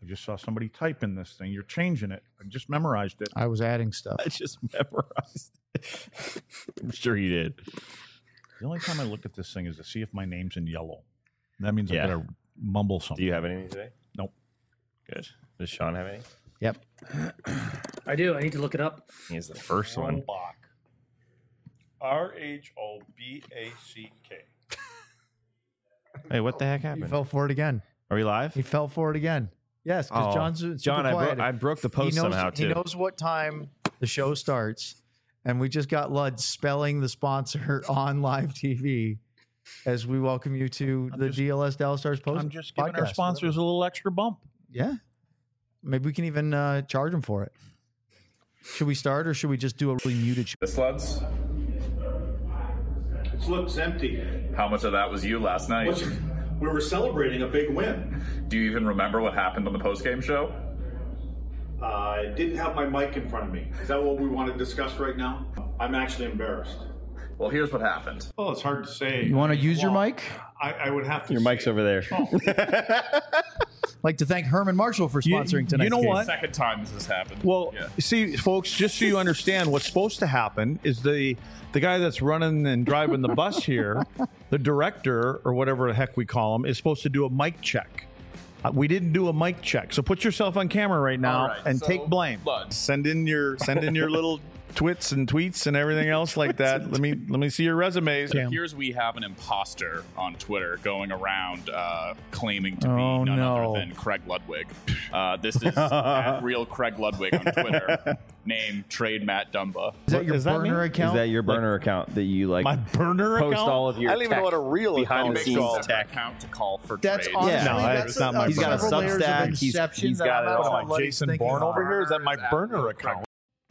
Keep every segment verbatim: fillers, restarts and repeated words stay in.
just saw somebody type in this thing. You're changing it. I just memorized it. I was adding stuff. I just memorized it. I'm sure you did. The only time I look at this thing is to see if my name's in yellow. That means Yeah. I gotta mumble something. Do you have anything today? Nope. Good. Does Sean have any? Yep. I do. I need to look it up. He's the first one. Robach. R H O B A C K. Hey, what the heck He happened? fell for it again. Are we live? He fell for it again. Yes, because Oh, John's super John, I, quiet. bro- I broke the he post knows, somehow he too. knows what time the show starts, and we just got Lud spelling the sponsor on live T V as we welcome you to I'm the just- D L S Dallas Stars post. I'm just giving our podcast, sponsors a little extra bump. whatever. Yeah, maybe we can even uh, charge them for it. Should we start, or should we just do a really muted show? The sluts? It looks empty. How much of that was you last night? What's- We were celebrating a big win. Do you even remember what happened on the post-game show? Uh, I didn't have my mic in front of me. Is that what we want to discuss right now? I'm actually embarrassed. Well, here's what happened. Well, it's hard to say. You want to use your Well, mic? I, I would have to. Your say- mic's over there. I'd like to thank Herman Marshall for You- sponsoring you tonight's know game. what? Second time this has happened. Well, Yeah. see, folks, just so you understand, what's supposed to happen is the the guy that's running and driving the bus here, the director or whatever the heck we call him, is supposed to do a mic check. Uh, we didn't do a mic check, so put yourself on camera right now All right, and so, take blame. Lud. Send in your send in your little twits and tweets and everything else like that. Let me let me see your resumes. It appears we have an imposter on Twitter going around uh, claiming to be Oh, none no. other than Craig Ludwig. Uh, this is at real Craig Ludwig on Twitter. Name Trade Matt Dumba. Is that What your does that burner mean? account? Is that your burner account that you like? My burner post account? all of your I don't even know tech what a real behind account the is scenes called. tech. Account to call for That's trades. honestly, Yeah, no, that's it's not my he's got a burner. He's got a Substack. Substack. He's- he's that got I'm it not all. sure what he's Jason thinking Bourne of. over here? Is that my Burner burner account. account?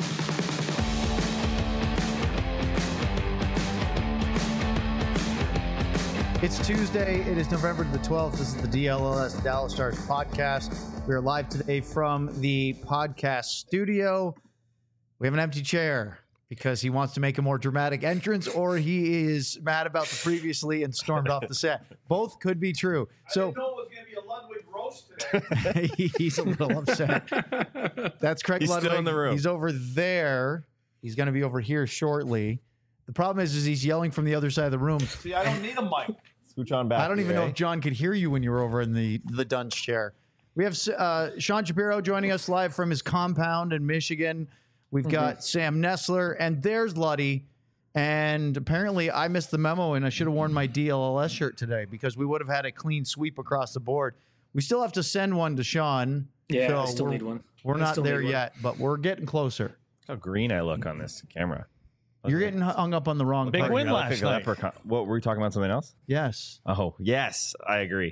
It's Tuesday. It is November the twelfth. This is the D L S Dallas Stars podcast. We are live today from the podcast studio. We have an empty chair because he wants to make a more dramatic entrance, or he is mad about the previously and stormed off the set. Both could be true. So know it was going to be a Ludwig roast today. he's a little upset. That's Craig He's still Ludwig. in the room. He's over there. He's going to be over here shortly. The problem is, is he's yelling from the other side of the room. See, I don't need a mic. Scooch on back. I don't even know okay? if John could hear you when you were over in the the dunce chair. We have uh, Sean Shapiro joining us live from his compound in Michigan. We've got Sam Nessler, and there's Luddy. And apparently, I missed the memo, and I should have worn my D L L S shirt today because we would have had a clean sweep across the board. We still have to send one to Sean. Yeah, I so still we're- need one. We're I not still there need one. yet, but we're getting closer. How green I look on this camera. You're getting hung up on the wrong Big part. win I look last like a night. leprechaun. What were we talking about? Something else? Yes. Oh yes, I agree.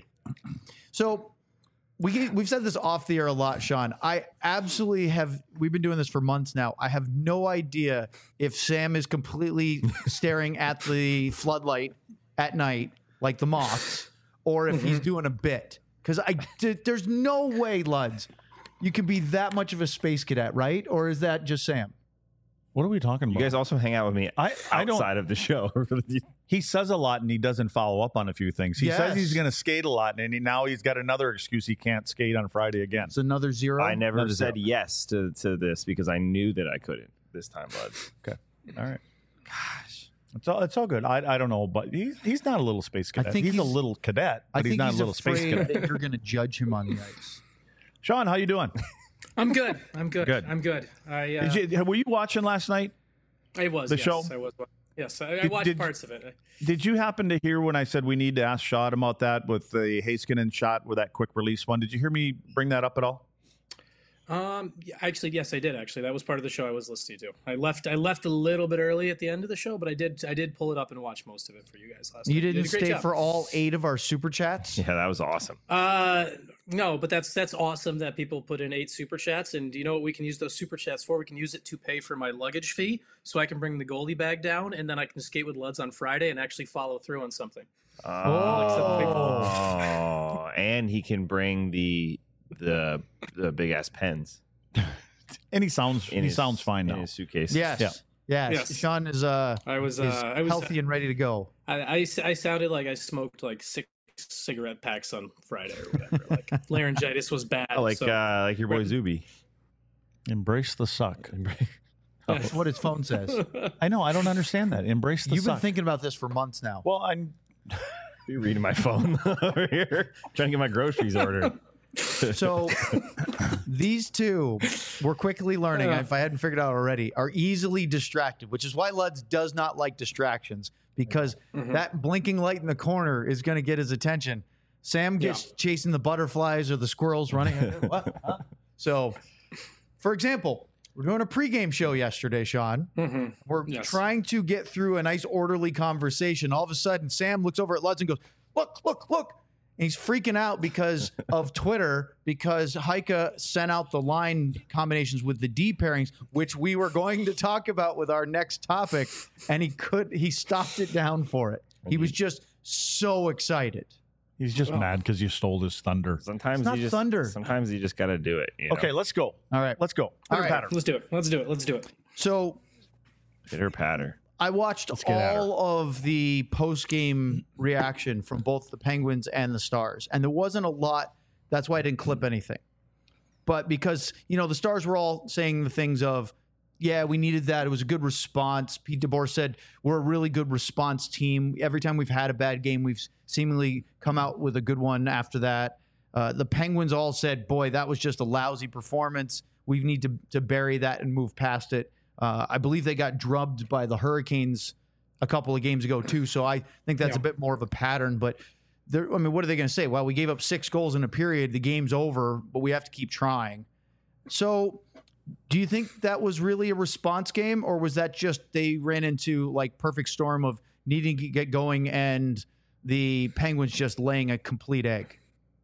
So we we've said this off the air a lot, Sean. I absolutely have. We've been doing this for months now. I have no idea if Sam is completely staring at the floodlight at night like the moths, or if he's doing a bit. Because I d- there's no way, Luds, you can be that much of a space cadet, right? Or is that just Sam? What are we talking You about? guys also hang out with me I, I don't. outside of the show. He says a lot and he doesn't follow up on a few things. He Yes. says he's going to skate a lot, and he, now he's got another excuse he can't skate on Friday again. It's another zero. I never Another said zero. yes to, to this because I knew that I couldn't this time, bud. Okay, all right. Gosh, it's all it's all good. I I don't know, but he's he's not a little space cadet. think he's, a he's- little cadet, I but he's think not he's a little space afraid cadet. that you're going to judge him on the ice. Sean, how you doing? I'm good. I'm good. Good. I'm good. I uh, Did you, were you watching last night? I was the yes, show? I was. Yes, I, I Did- watched did- parts of it. Did you happen to hear when I said we need to ask Shot about that with the Heiskanen shot with that quick release one? Did you hear me bring that up at all? Um, yeah, actually, yes, I did. Actually, that was part of the show I was listening to. I left. I left a little bit early at the end of the show, but I did. I did pull it up and watch most of it for you guys last You night. didn't did a great stay job. for all eight of our super chats? Yeah, that was awesome. Uh, no, but that's that's awesome that people put in eight super chats, and do you know what we can use those super chats for? We can use it to pay for my luggage fee, so I can bring the goalie bag down, and then I can skate with Luds on Friday and actually follow through on something. Oh, and he can bring the the the big ass pens And he sounds in he his, sounds fine in now. his suitcase. Yes. Yeah. Yes. Yes. Sean is uh I was, is uh, I was healthy and ready to go. I, I, I sounded like I smoked like six cigarette packs on Friday or whatever. Like laryngitis was bad. Oh, like so, uh, like your boy Zuby. Embrace the suck. That's what his phone says. I know. I don't understand that. Embrace the You've suck. been thinking about this for months now. well, I'm. You're reading my phone over here, trying to get my groceries ordered. So these two, we're quickly learning, if I hadn't figured out already, are easily distracted, which is why Luds does not like distractions, because Mm-hmm. that blinking light in the corner is going to get his attention. Sam gets Yeah. chasing the butterflies or the squirrels running. What? Huh? So, for example, we're doing a pregame show yesterday, Sean. Mhm. We're Yes. trying to get through a nice orderly conversation. All of a sudden, Sam looks over at Luds and goes, look, look, look. And he's freaking out because of Twitter, because Heike sent out the line combinations with the D pairings, which we were going to talk about with our next topic. And he could, he stopped it down for it. He was just so excited. He's just mad because you stole his thunder. Sometimes It's not you just thunder. Sometimes you just got to do it. You know? Okay, let's go. All right. Let's go. All Pitter right. patter. Let's do it. Let's do it. Let's do it. So Pitter patter. I watched get at her. all of the post game reaction from both the Penguins and the Stars, and there wasn't a lot. That's why I didn't clip anything. But because, you know, the Stars were all saying the things of, yeah, we needed that. It was a good response. Pete DeBoer said, we're a really good response team. Every time we've had a bad game, we've seemingly come out with a good one after that. Uh, the Penguins all said, boy, that was just a lousy performance. We need to, to bury that and move past it. Uh, I believe they got drubbed by the Hurricanes a couple of games ago, too. So I think that's Yeah. a bit more of a pattern. But, they're- I mean, what are they going to say? Well, we gave up six goals in a period. The game's over, but we have to keep trying. So do you think that was really a response game, or was that just they ran into like perfect storm of needing to get going and the Penguins just laying a complete egg?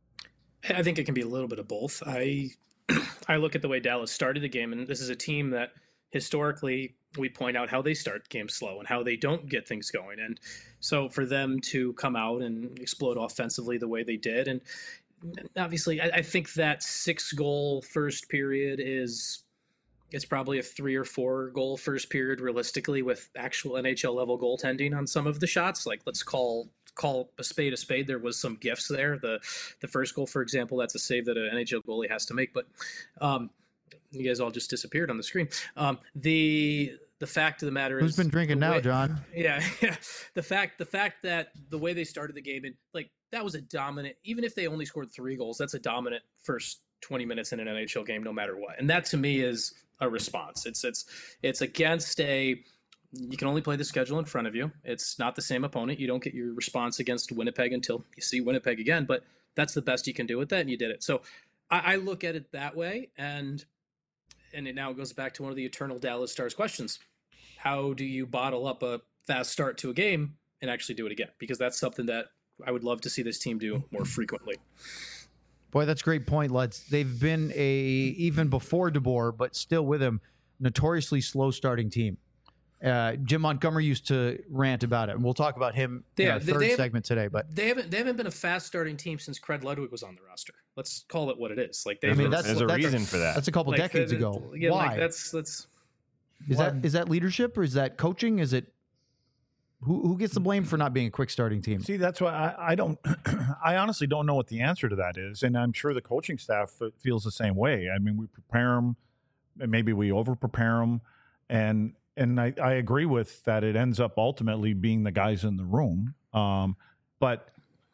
I think it can be a little bit of both. I I look at the way Dallas started the game, and this is a team that historically we point out how they start games slow and how they don't get things going. And so for them to come out and explode offensively the way they did, and obviously I, I think that six goal first period is it's probably a three or four goal first period realistically with actual N H L level goaltending on some of the shots. Like let's call call a spade a spade. There was some gifts there. The the first goal, for example, that's a save that an N H L goalie has to make. But um, you guys all just disappeared on the screen. Um, the the fact of the matter is, Who's been drinking the now, way- John? Yeah, yeah. The fact the fact that the way they started the game, and like that was a dominant. Even if they only scored three goals, that's a dominant first twenty minutes in an N H L game, no matter what. And that to me is a response. It's it's it's against a. You can only play the schedule in front of you. It's not the same opponent. You don't get your response against Winnipeg until you see Winnipeg again. But that's the best you can do with that, and you did it. So I, I look at it that way, and and it now goes back to one of the eternal Dallas Stars questions: how do you bottle up a fast start to a game and actually do it again? Because that's something that I would love to see this team do more frequently. Boy, that's a great point, Lutz. They've been a, even before DeBoer, but still with him, notoriously slow starting team. Uh, Jim Montgomery used to rant about it, and we'll talk about him in Yeah, our they- third they have- segment today. But They haven't they haven't been a fast starting team since Craig Ludwig was on the roster. Let's call it what it is. Like they I mean, that's There's a that's reason for that. That's a couple like, decades the- ago. Yeah, Why like that's that's is that? Is that leadership, or is that coaching? Is it who who gets the blame for not being a quick starting team? See, that's why I, I don't. I honestly don't know what the answer to that is, and I'm sure the coaching staff feels the same way. I mean, we prepare them, and maybe we over prepare them, and and I, I agree with that. It ends up ultimately being the guys in the room, um, but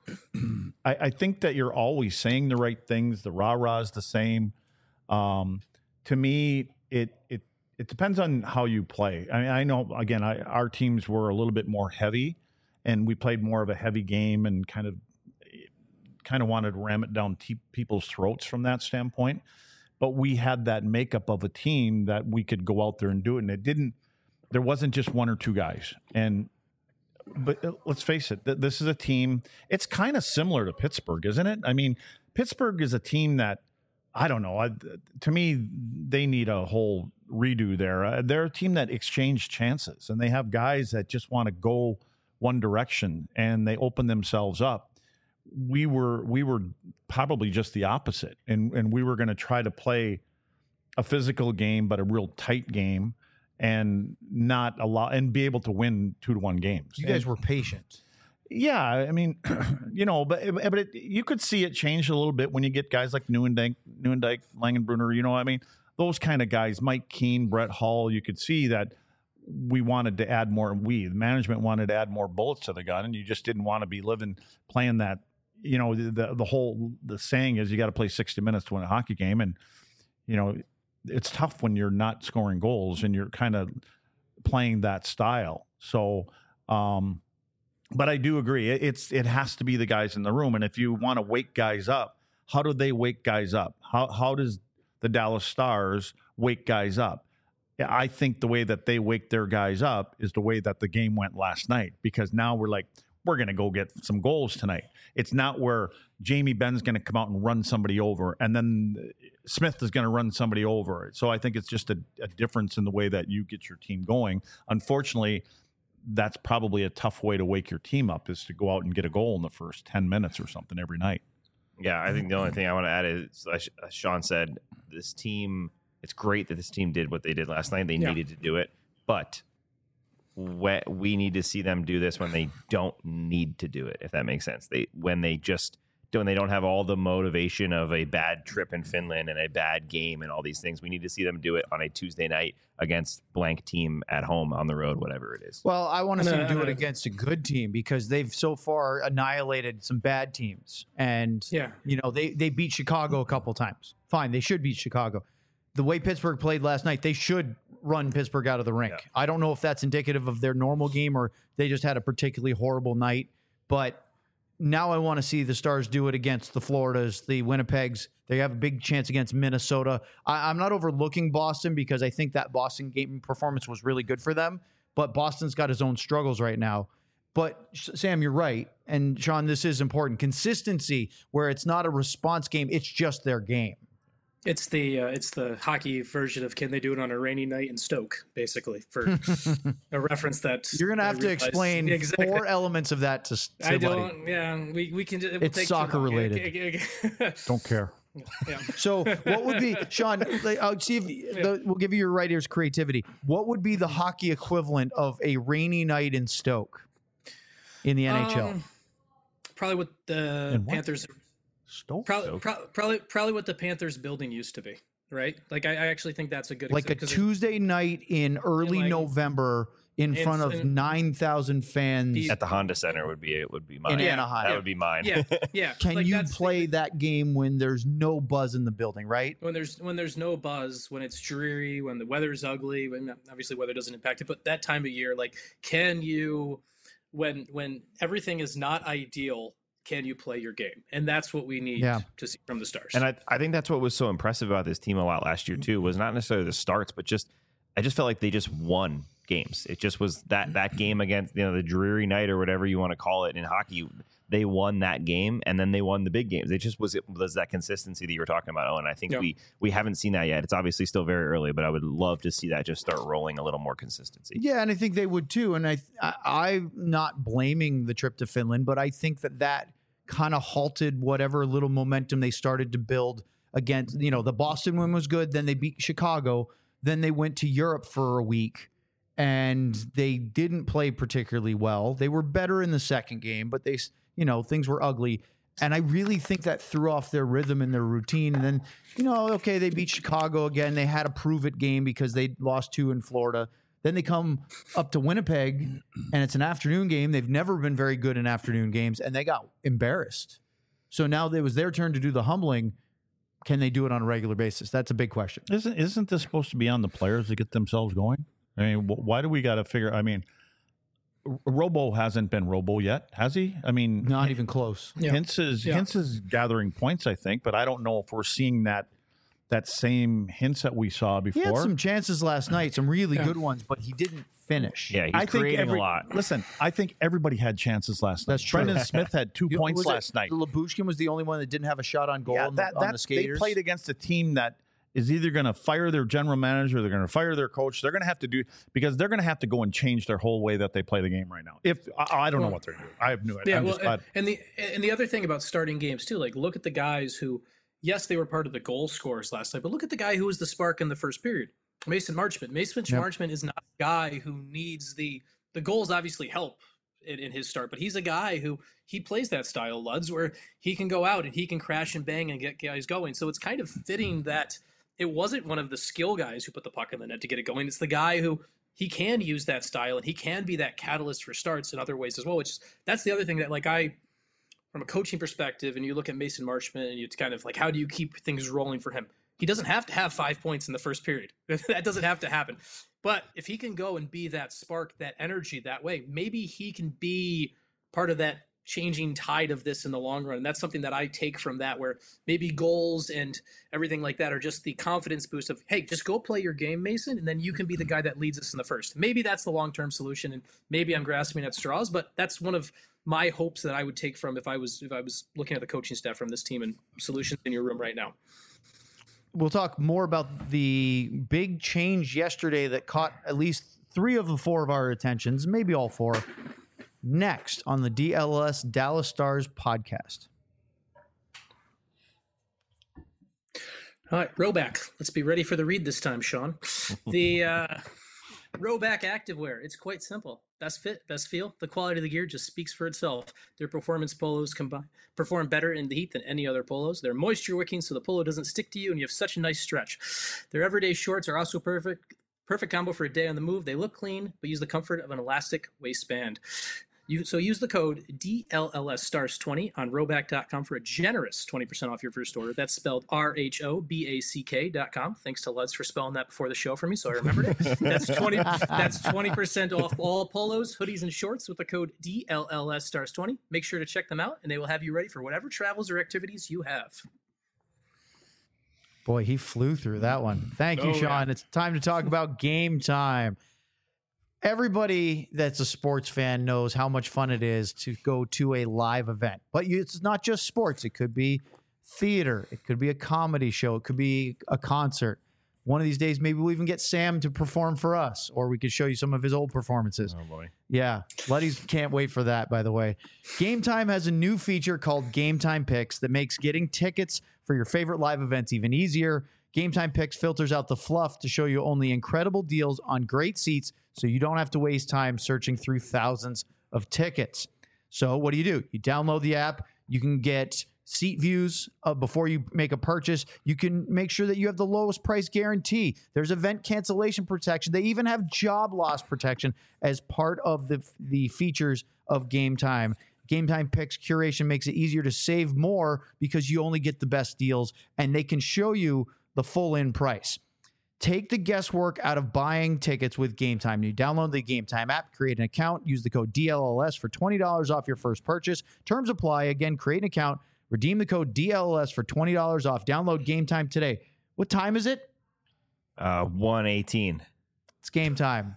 I, I think that you're always saying the right things. The rah rah is the same. Um, to me, it it it depends on how you play. I mean, I know again, I, our teams were a little bit more heavy, and we played more of a heavy game and kind of kind of wanted to ram it down te- people's throats from that standpoint. But we had that makeup of a team that we could go out there and do it, and it didn't. There wasn't just one or two guys, and but let's face it, th- this is a team. It's kind of similar to Pittsburgh, isn't it? I mean, Pittsburgh is a team that I don't know. I, to me, they need a whole redo there. Uh, they're a team that exchange chances, and they have guys that just want to go one direction, and they open themselves up. We were we were probably just the opposite, and and we were going to try to play a physical game, but a real tight game, and not allow and be able to win two to one games. You guys And- were patient. Yeah, I mean, you know, but but it, you could see it change a little bit when you get guys like Neuendijk, Neuendijk, Langenbrunner. You know, I mean, those kind of guys, Mike Keane, Brett Hull. You could see that we wanted to add more. We, the management, wanted to add more bullets to the gun, and you just didn't want to be living playing that. You know, the the whole the saying is you got to play sixty minutes to win a hockey game, and you know, it's tough when you're not scoring goals and you're kind of playing that style. So. um But I do agree. It's it has to be the guys in the room. And if you want to wake guys up, how do they wake guys up? How how does the Dallas Stars wake guys up? I think the way that they wake their guys up is the way that the game went last night, because now we're like, we're going to go get some goals tonight. It's not where Jamie Benn's going to come out and run somebody over, and then Smith is going to run somebody over. So I think it's just a, a difference in the way that you get your team going. Unfortunately, that's probably a tough way to wake your team up, is to go out and get a goal in the first ten minutes or something every night. Yeah, I think the only thing I want to add is, as Sean said, this team, it's great that this team did what they did last night. They Yeah. needed to do it, but we, we need to see them do this when they don't need to do it, if that makes sense. They When they just when they don't have all the motivation of a bad trip in Finland and a bad game and all these things. We need to see them do it on a Tuesday night against blank team at home, on the road, whatever it is. Well, I want to see them do it Uh, against a good team, because they've so far annihilated some bad teams. And, Yeah. you know, they, they beat Chicago a couple times. Fine, they should beat Chicago. The way Pittsburgh played last night, they should run Pittsburgh out of the rink. Yeah. I don't know if that's indicative of their normal game or they just had a particularly horrible night. But now I want to see the Stars do it against the Floridas, the Winnipegs. They have a big chance against Minnesota. I, I'm not overlooking Boston, because I think that Boston game performance was really good for them. But Boston's got his own struggles right now. But Sam, you're right. And Sean, this is important. Consistency, where it's not a response game, it's just their game. It's the uh, it's the hockey version of can they do it on a rainy night in Stoke, basically, for a reference that You're going to I have to realized- explain exactly. four elements of that to, to I buddy. don't. Yeah, we we can. It will It's take too soccer long. related. Don't care. Yeah. So what would be, Sean, like, I'll see if the, we'll give you your right ear's creativity. What would be the hockey equivalent of a rainy night in Stoke in the N H L? Um, probably what the And what? Panthers. Stoke? Probably, pro- probably, probably what the Panthers building used to be, right? Like, I, I actually think that's a good Like a exa- 'cause it- Tuesday night in early like- November in in- front of in- nine thousand fans. The- At the Honda Center would be it would be mine. In Yeah, Anaheim. That yeah, would be mine. Yeah, yeah. Can Like, you that's- play that game when there's no buzz in the building, right? when there's when there's no buzz, when it's dreary, when the weather's ugly? When obviously weather doesn't impact it, but that time of year, like, can you, when when everything is not ideal, can you play your game? And that's what we need Yeah. to see from the Stars. And I, I think that's what was so impressive about this team a lot last year too, was not necessarily the starts, but just I just felt like they just won games. It just was that that game against, you know, the dreary night or whatever you want to call it in hockey. They won that game, and then they won the big games. It just was it was that consistency that you were talking about, Owen. I think Yeah. we we haven't seen that yet. It's obviously still very early, but I would love to see that just start rolling a little more consistency. Yeah, and I think they would too. And I, I I'm not blaming the trip to Finland, but I think that that kind of halted whatever little momentum they started to build against. You know, the Boston win was good. Then they beat Chicago. Then they went to Europe for a week, and they didn't play particularly well. They were better in the second game, but they, you know, things were ugly. And I really think that threw off their rhythm and their routine. And then, you know, okay, they beat Chicago again. They had a prove it game because they lost two in Florida. Then they come up to Winnipeg, and it's an afternoon game. They've never been very good in afternoon games, and they got embarrassed. So now it was their turn to do the humbling. Can they do it on a regular basis? That's a big question. Isn't isn't this supposed to be on the players to get themselves going? I mean, wh- why do we got to figure? I mean, R- Robo hasn't been Robo yet, has he? I mean, Not even close. Yeah. Hintz is Yeah. Hintz is gathering points, I think, but I don't know if we're seeing that that same hints that we saw He before. had some chances last night, some really Yeah. good ones, but he didn't finish. Yeah, he's I think creating every, a lot. Listen, I think everybody had chances last night. That's true. Brendan Smith had two You- points was it last night. Labushkin was the only one that didn't have a shot on goal Yeah, on, that, the, on that- the skaters. they played against a team that is either going to fire their general manager, they're going to fire their coach. They're going to have to do because they're going to have to go and change their whole way that they play the game right now. If I, I don't know Well, what they're doing, I have no idea. Yeah, I'm well, just glad. and the and the other thing about starting games too, like look at the guys who, yes, they were part of the goal scorers last night, but look at the guy who was the spark in the first period, Mason Marchment. Mason Yep. Marchment is not a guy who needs the the goals. Obviously help in, in his start, but he's a guy who he plays that style, Luds, where he can go out and he can crash and bang and get guys going. So it's kind of fitting that it wasn't one of the skill guys who put the puck in the net to get it going. It's the guy who he can use that style and he can be that catalyst for starts in other ways as well, which is, that's the other thing that, like, I, from a coaching perspective, and you look at Mason Marchment and you kind of like, how do you keep things rolling for him? He doesn't have to have five points in the first period. That doesn't have to happen. But if he can go and be that spark, that energy that way, maybe he can be part of that changing tide of this in the long run. And that's something that I take from that, where maybe goals and everything like that are just the confidence boost of, hey, just go play your game, Mason, and then you can be the guy that leads us in the first. Maybe that's the long-term solution, and maybe I'm grasping at straws, but that's one of my hopes that I would take from if I was if I was looking at the coaching staff from this team and solutions in your room right now. We'll talk more about the big change yesterday that caught at least three of the four of our attentions, maybe all four, next on the D L S Dallas Stars podcast. All right, Rhoback. Let's be ready for the read this time, Sean. The uh, Rhoback Activewear. It's quite simple. Best fit, best feel. The quality of the gear just speaks for itself. Their performance polos combine, perform better in the heat than any other polos. They're moisture wicking, so the polo doesn't stick to you, and you have such a nice stretch. Their everyday shorts are also perfect. Perfect combo for a day on the move. They look clean, but use the comfort of an elastic waistband. You, so use the code D L L S Stars twenty on Rhoback dot com for a generous twenty percent off your first order. That's spelled R H O B A C K dot com. Thanks to Luds for spelling that before the show for me, so I remembered it. That's twenty That's twenty percent off all polos, hoodies, and shorts with the code D L L S Stars twenty. Make sure to check them out, and they will have you ready for whatever travels or activities you have. Boy, he flew through that one. Thank you, Oh, Sean. yeah. It's time to talk about Game Time. Everybody that's a sports fan knows how much fun it is to go to a live event. But you, it's not just sports. It could be theater. It could be a comedy show. It could be a concert. One of these days, maybe we'll even get Sam to perform for us, or we could show you some of his old performances. Oh, boy. Yeah, Luddies can't wait for that, by the way. Game Time has a new feature called Game Time Picks that makes getting tickets for your favorite live events even easier. Game Time Picks filters out the fluff to show you only incredible deals on great seats, so you don't have to waste time searching through thousands of tickets. So what do you do? You download the app. You can get seat views uh, before you make a purchase. You can make sure that you have the lowest price guarantee. There's event cancellation protection. They even have job loss protection as part of the, the features of Game Time. Game Time Picks curation makes it easier to save more because you only get the best deals, and they can show you the full in price. Take the guesswork out of buying tickets with Game Time. You download the Game Time app, create an account, use the code D L L S for twenty dollars off your first purchase. Terms apply. Again, create an account, redeem the code D L L S for twenty dollars off. Download Game Time today. What time is it? Uh, one eighteen. It's game time.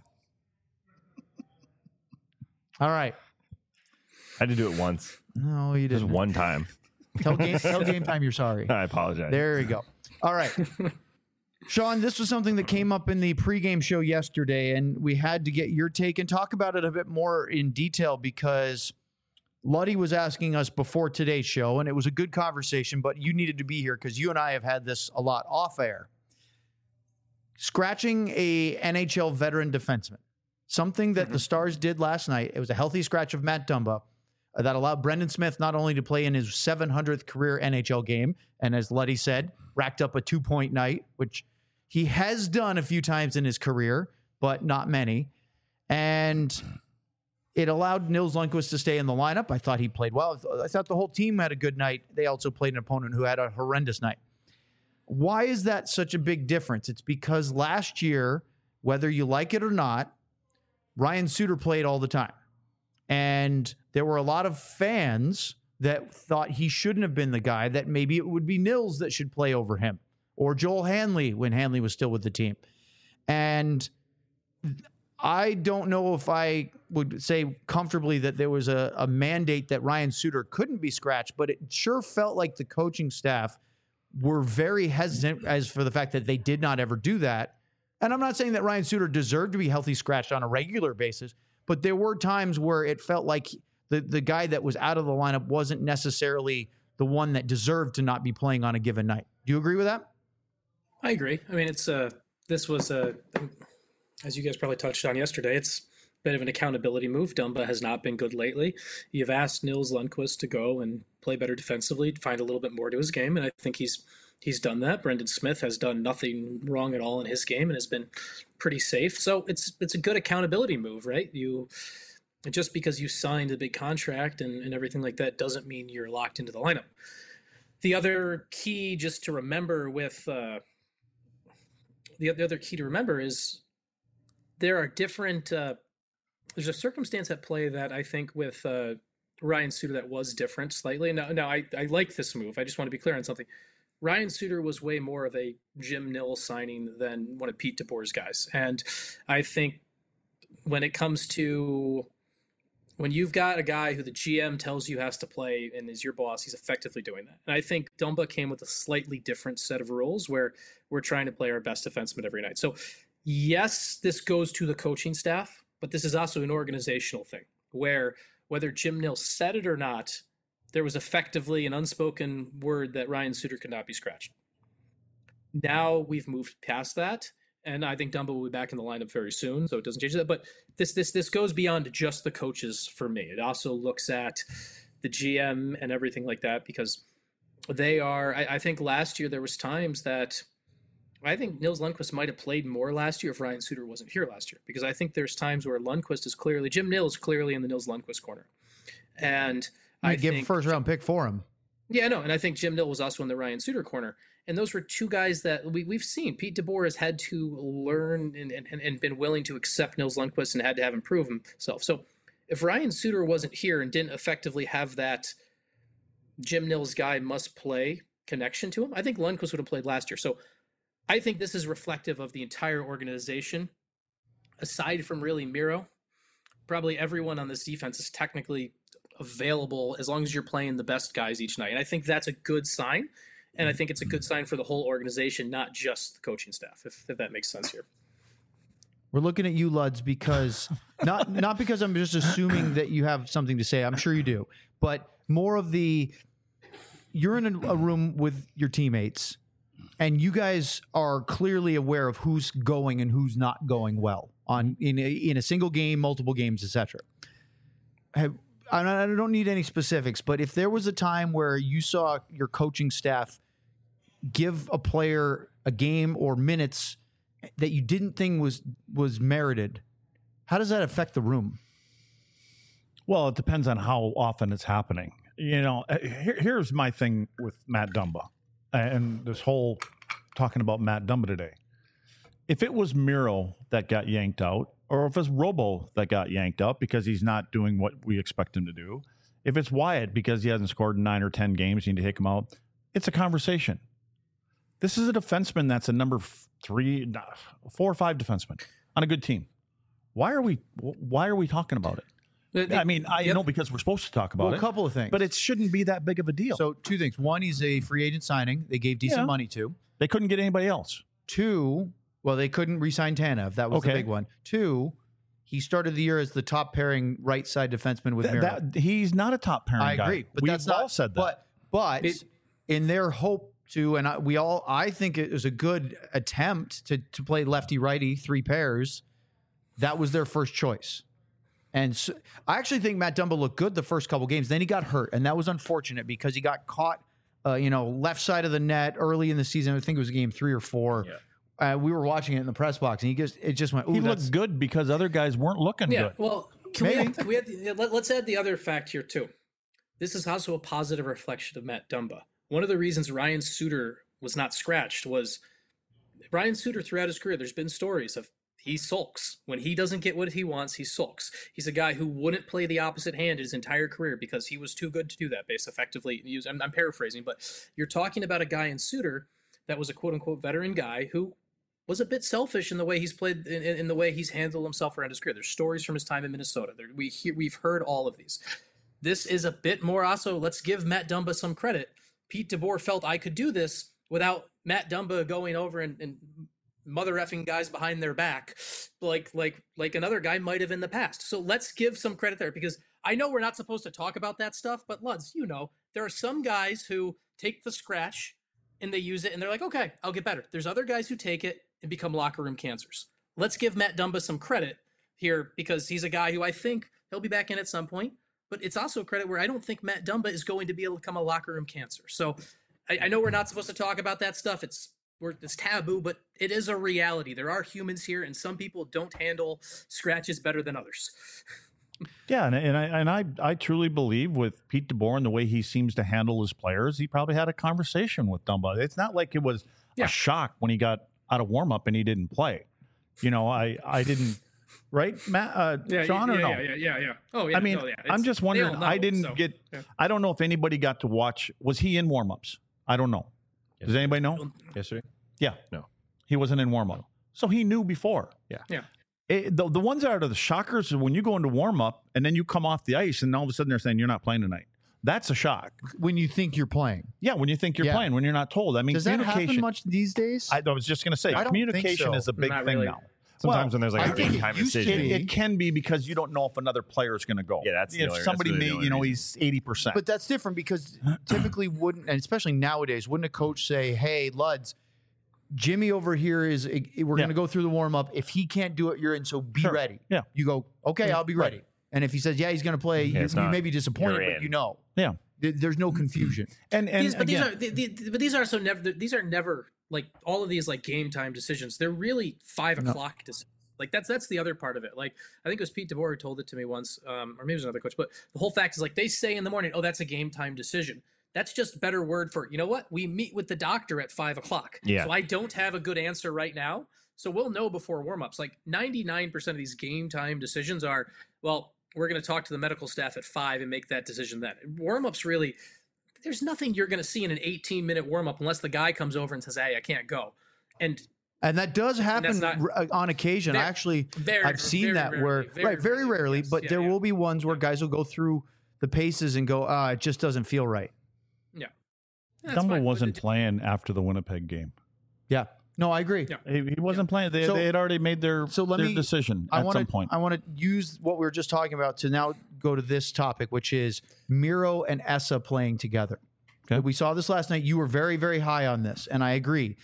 All right. I had to do it once. No, you Just didn't. one time. Tell game, tell game Time you're sorry. I apologize. There you go. All right. Sean, this was something that came up in the pregame show yesterday, and we had to get your take and talk about it a bit more in detail because Luddy was asking us before today's show, and it was a good conversation, but you needed to be here because you and I have had this a lot off air. Scratching a N H L veteran defenseman, something that the Stars did last night. It was a healthy scratch of Matt Dumba uh, that allowed Brendan Smith not only to play in his seven hundredth career N H L game, and as Luddy said, racked up a two-point night, which he has done a few times in his career, but not many. And it allowed Nils Lundkvist to stay in the lineup. I thought he played well. I thought the whole team had a good night. They also played an opponent who had a horrendous night. Why is that such a big difference? It's because last year, whether you like it or not, Ryan Suter played all the time. And there were a lot of fans that thought he shouldn't have been the guy, that maybe it would be Nils that should play over him, or Joel Hanley when Hanley was still with the team. And I don't know if I would say comfortably that there was a, a mandate that Ryan Suter couldn't be scratched, but it sure felt like the coaching staff were very hesitant as for the fact that they did not ever do that. And I'm not saying that Ryan Suter deserved to be healthy scratched on a regular basis, but there were times where it felt like the, the guy that was out of the lineup wasn't necessarily the one that deserved to not be playing on a given night. Do you agree with that? I agree. I mean, it's uh, this was uh, as you guys probably touched on yesterday. It's bit of an accountability move. Dumba has not been good lately. You've asked Nils Lundqvist to go and play better defensively, find a little bit more to his game, and I think he's he's done that. Brendan Smith has done nothing wrong at all in his game and has been pretty safe. So it's it's a good accountability move, right? You just because you signed a big contract and, and everything like that doesn't mean you're locked into the lineup. The other key just to remember with uh, the, the other key to remember is there are different uh, there's a circumstance at play that I think with uh, Ryan Suter that was different slightly. Now, now I, I like this move. I just want to be clear on something. Ryan Suter was way more of a Jim Nill signing than one of Pete DeBoer's guys. And I think when it comes to when you've got a guy who the G M tells you has to play and is your boss, he's effectively doing that. And I think Dumba came with a slightly different set of rules where we're trying to play our best defenseman every night. So yes, this goes to the coaching staff, but this is also an organizational thing where whether Jim Nill said it or not, there was effectively an unspoken word that Ryan Suter could not be scratched. Now we've moved past that, and I think Dumba will be back in the lineup very soon, so it doesn't change that. But this this this goes beyond just the coaches for me. It also looks at the G M and everything like that, because they are. I, I think last year there was times that I think Nils Lundqvist might have played more last year if Ryan Suter wasn't here last year, because I think there's times where Lundqvist is clearly Jim Nill is clearly in the Nils Lundqvist corner, and I give think, a first round pick for him. Yeah, no, and I think Jim Nill was also in the Ryan Suter corner. And those were two guys that we, we've seen. Pete DeBoer has had to learn and, and, and been willing to accept Nils Lundqvist and had to have him prove himself. So if Ryan Suter wasn't here and didn't effectively have that Jim Nill's guy must play connection to him, I think Lundqvist would have played last year. So I think this is reflective of the entire organization. Aside from really Miro, probably everyone on this defense is technically available as long as you're playing the best guys each night. And I think that's a good sign. And I think it's a good sign for the whole organization, not just the coaching staff, if, if that makes sense here. We're looking at you, Luds, because not not because I'm just assuming that you have something to say. I'm sure you do. But more of the, you're in a, a room with your teammates, and you guys are clearly aware of who's going and who's not going well on in a, in a single game, multiple games, et cetera. Have I don't need any specifics, but if there was a time where you saw your coaching staff give a player a game or minutes that you didn't think was was merited, how does that affect the room? Well, it depends on how often it's happening. You know, here, here's my thing with Matt Dumba and this whole talking about Matt Dumba today. If it was Miro that got yanked out, or if it's Robo that got yanked up because he's not doing what we expect him to do, if it's Wyatt because he hasn't scored in nine or ten games, you need to take him out, it's a conversation. This is a defenseman that's a number three, four or five defenseman on a good team. Why are we why are we talking about it? I mean, I yep. know because we're supposed to talk about well, it. A couple of things. But it shouldn't be that big of a deal. So two things. One, he's a free agent signing. They gave decent yeah. money to. They couldn't get anybody else. Two, well, they couldn't re-sign Tanev. That was okay. the big one. Two, he started the year as the top pairing right side defenseman with Th- Miro. that, he's not a top pairing I guy. agree, but We've that's all not said that. But but it, in their hope to, and I, we all, I think it was a good attempt to to play lefty righty three pairs. That was their first choice, and so, I actually think Matt Dumba looked good the first couple games. Then he got hurt, and that was unfortunate because he got caught, uh, you know, left side of the net early in the season. I think it was game three or four. Yeah. Uh, we were watching it in the press box, and he just it just went. Ooh, he that's, looked good because other guys weren't looking yeah, good. Well, can we, add, we add, let, let's add the other fact here too. This is also a positive reflection of Matt Dumba. One of the reasons Ryan Suter was not scratched was Ryan Suter throughout his career. There's been stories of he sulks when he doesn't get what he wants. He sulks. He's a guy who wouldn't play the opposite hand his entire career because he was too good to do that. Based effectively, I'm, I'm paraphrasing, but you're talking about a guy in Suter that was a quote unquote veteran guy who was a bit selfish in the way he's played, in, in the way he's handled himself around his career. There's stories from his time in Minnesota. There, we hear, we've heard all of these. This is a bit more also, let's give Matt Dumba some credit. Pete DeBoer felt I could do this without Matt Dumba going over and, and mother effing guys behind their back like like like another guy might have in the past. So let's give some credit there, because I know we're not supposed to talk about that stuff, but Luds, you know, there are some guys who take the scratch and they use it and they're like, okay, I'll get better. There's other guys who take it and become locker room cancers. Let's give Matt Dumba some credit here because he's a guy who I think he'll be back in at some point. But it's also a credit where I don't think Matt Dumba is going to be able to become a locker room cancer. So I, I know we're not supposed to talk about that stuff. It's we're, it's taboo, but it is a reality. There are humans here, and some people don't handle scratches better than others. Yeah, and, and I and I I truly believe with Pete DeBoer and the way he seems to handle his players, he probably had a conversation with Dumba. It's not like it was Yeah. a shock when he got out of warm up and he didn't play. You know, I I didn't. Right, Matt, uh, Yeah, Sean, yeah, or no? yeah, yeah, yeah, yeah. Oh, yeah. I mean, no, yeah. I'm It's- just they wondering. all know, I didn't so, get. yeah. I don't know if anybody got to watch. Was he in warmups? I don't know. Does anybody know? Yesterday? Yeah, No. he wasn't in warm up, so he knew before. Yeah. Yeah. It, the the ones that are the shockers is when you go into warm up and then you come off the ice and all of a sudden they're saying you're not playing tonight. That's a shock. When you think you're playing. Yeah, when you think you're Yeah. playing, when you're not told. I mean, Does that communication. happen much these days? I, I was just going to say, I don't think communication so. is a big Not thing really. now. Sometimes Well, when there's like I a think big it time used to decision. be. It, it can be because you don't know if another player is going to go. Yeah, that's the if only- that's somebody really the may, only you know, reason. he's eighty percent. But that's different because typically wouldn't, and especially nowadays, wouldn't a coach say, "Hey, Luds, Jimmy over here is we're Yeah. going to go through the warm up. If he can't do it, you're in. So be Sure. ready." Yeah. You go, "Okay, I'll be ready." And if he says, "Yeah, he's going to play," Yeah, you, it's you not, may be disappointed, you're but in. you know, yeah, There- there's no confusion. and and These, but again, these are the, the, but these are so never these are never like all of these like game time decisions. They're really five o'clock decisions. Like that's that's the other part of it. Like I think it was Pete DeBoer who told it to me once, um, or maybe it was another coach. But the whole fact is like they say in the morning, "Oh, that's a game time decision." That's just better word for you know what we meet with the doctor at five o'clock. Yeah. So I don't have a good answer right now. So we'll know before warmups. Like ninety-nine percent of these game time decisions are well. We're going to talk to the medical staff at five and make that decision then. Warm-ups really, there's nothing you're going to see in an eighteen minute warm-up unless the guy comes over and says, "Hey, I can't go." And And that does happen not- r- on occasion. Very- I actually, very- I've seen very that rarely, where, very right, very rarely, rarely, yes. but Yeah, there yeah. will be ones where guys will go through the paces and go, "Ah, it just doesn't feel right." yeah, That's Dumba fine. wasn't But it- playing after the Winnipeg game. Yeah. No, I agree. Yeah. He, he wasn't playing. They, So- they had already made their, so let their me- decision I at want some to point. I want to use what we were just talking about to now go to this topic, which is Miro and Essa playing together. Okay. We saw this last night. You were very, very high on this, and I agree.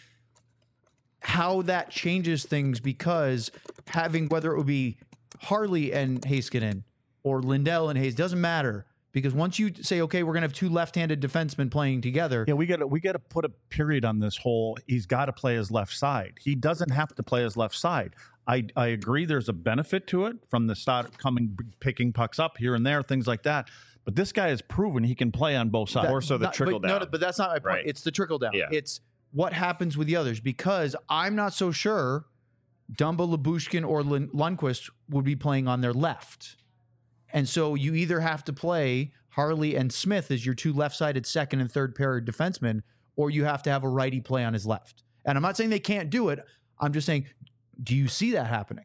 How that changes things because having whether it would be Harley and Heiskanen or Lindell and Hayes doesn't matter because once you say, okay, we're going to have two left-handed defensemen playing together. Yeah, we got to we got to put a period on this whole. He's got to play his left side. He doesn't have to play his left side. I I agree. There's a benefit to it from the start, coming picking pucks up here and there, things like that. But this guy has proven he can play on both sides. That- Or so the not- trickle but, no, down. no, but that's not my point. Right. It's the trickle down. Yeah. It's what happens with the others because I'm not so sure Dumba, Labushkin, or Lund- Lundqvist would be playing on their left. And so you either have to play Harley and Smith as your two left-sided second and third pair defensemen, or you have to have a righty play on his left. And I'm not saying they can't do it. I'm just saying, do you see that happening?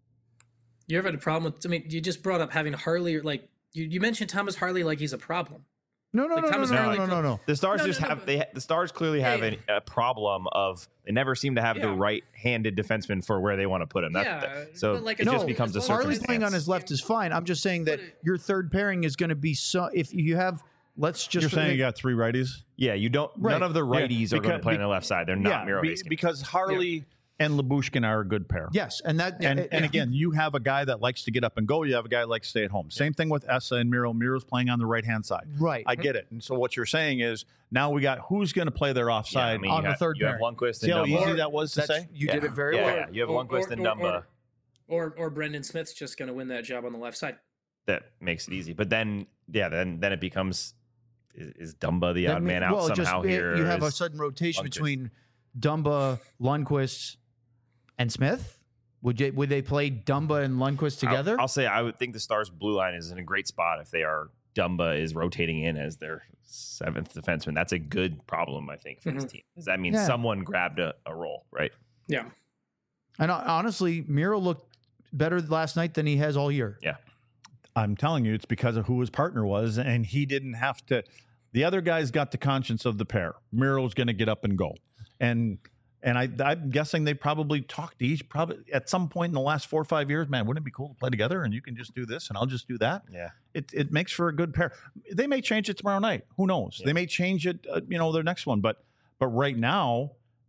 You ever had a problem with? I mean, you just brought up having Harley. Like you, you mentioned Thomas Harley like he's a problem. No, no, Like no, no, Thomas no, Harley no, no, no. The Stars No, no, just no, have but- they the Stars clearly have Hey. an, a problem of they never seem to have the Yeah. right-handed defenseman for where they want to put him. That, Yeah, that- so but like it as just long- becomes a as long as Harley's circumstance. playing on his left is fine. I'm just saying that But it- your third pairing is going to be so. If you have, let's just You're saying you got three righties. Yeah, you don't. Right. None of the Yeah, righties are going because- to play on the left side. They're not Miro be- Heiskanen. because Harley and Labushkin are a good pair. yes, and that And, uh, and uh, again, you have a guy that likes to get up and go. You have a guy that likes to stay at home. Same thing with Essa and Miro. Miro's playing on the right hand side. right. I get it. And so what you're saying is now we got who's going to play their yeah, offside. I mean, on you the have, third you have pairing. Lundqvist See how and easy Dumba. that was to That's, say? you Yeah. did it very Yeah, well. yeah. You have Or- Lundqvist or- and or- Dumba. Or or Brendan Smith's just going to win that job on the left side. That makes it easy. But then, yeah, then then it becomes is, is Dumba the That odd mean- man out well, just, somehow uh, here? You have a Is- sudden rotation Lundqvist. between Dumba, Lundqvist, and Smith. Would you, would they play Dumba and Lundqvist together? I'll, I'll say I would think the Stars' blue line is in a great spot if they are Dumba is rotating in as their seventh defenseman. That's a good problem, I think, for this Mhm. team. Because that means Yeah. someone grabbed a, a role, right? Yeah. and uh, honestly, Miro looked better last night than he has all year. I'm telling you, it's because of who his partner was, and he didn't have to. The other guy's got the conscience of the pair. Miro's going to get up and go, and and I, I'm guessing they probably talked to each probably at some point in the last four or five years. Man, wouldn't it be cool to play together? And you can just do this, and I'll just do that. Yeah. It it makes for a good pair. They may change it tomorrow night. Who knows? Yeah. They may change it, uh, you know, their next one. But but right now,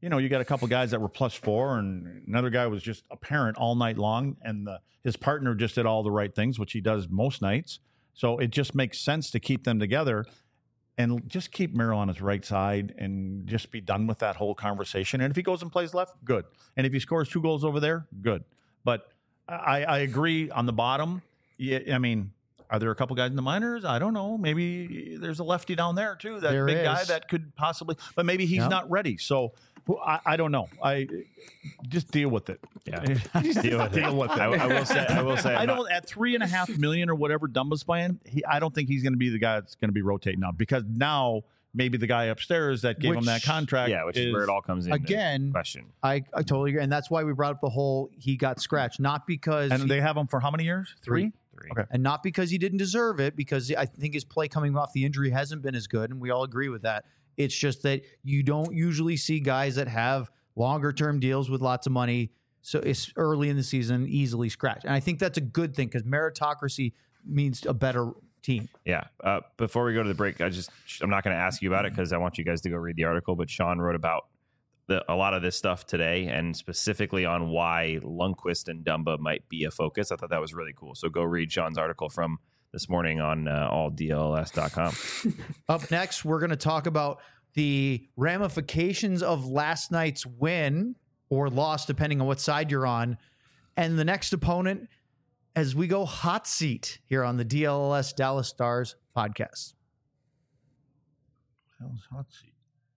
you know, you got a couple guys that were plus four, and another guy was just a parent all night long, and the, his partner just did all the right things, which he does most nights. So it just makes sense to keep them together and just keep Merrill on his right side and just be done with that whole conversation. And if he goes and plays left, good. And if he scores two goals over there, good. But I, I agree on the bottom. Yeah, I mean, are there a couple guys in the minors? I don't know. Maybe there's a lefty down there too. That There big is. guy that could possibly, but maybe he's Yep. not ready. So who- I, I don't know. I just deal with it. Yeah. Just Deal with it. deal with it. I, I will say. I will say. I I'm not- don't at three and a half million or whatever Dumba's playing. He, I don't think he's going to be the guy that's going to be rotating now, because now maybe the guy upstairs that gave him Which- that contract. Yeah, which is, where it all comes in. Again, question. I, I totally agree. And that's why we brought up the whole he got scratched, not because And he- they have him for how many years? Three. Three. Okay. and not because he didn't deserve it, because I think his play coming off the injury hasn't been as good, and we all agree with that. It's just that you don't usually see guys that have longer term deals with lots of money, so it's early in the season, easily scratched. And I think that's a good thing, because meritocracy means a better team. Yeah. Uh, before we go to the break, I just I'm not going to ask you about it because I want you guys to go read the article. But Sean wrote about the, a lot of this stuff today, and specifically on why Lundqvist and Dumba might be a focus. I thought that was really cool. So go read Sean's article from this morning on uh, all D L S dot com. Up next, we're going to talk about the ramifications of last night's win or loss, depending on what side you're on, and the next opponent as we go hot seat here on the D L S Dallas Stars podcast. Hell's hot seat.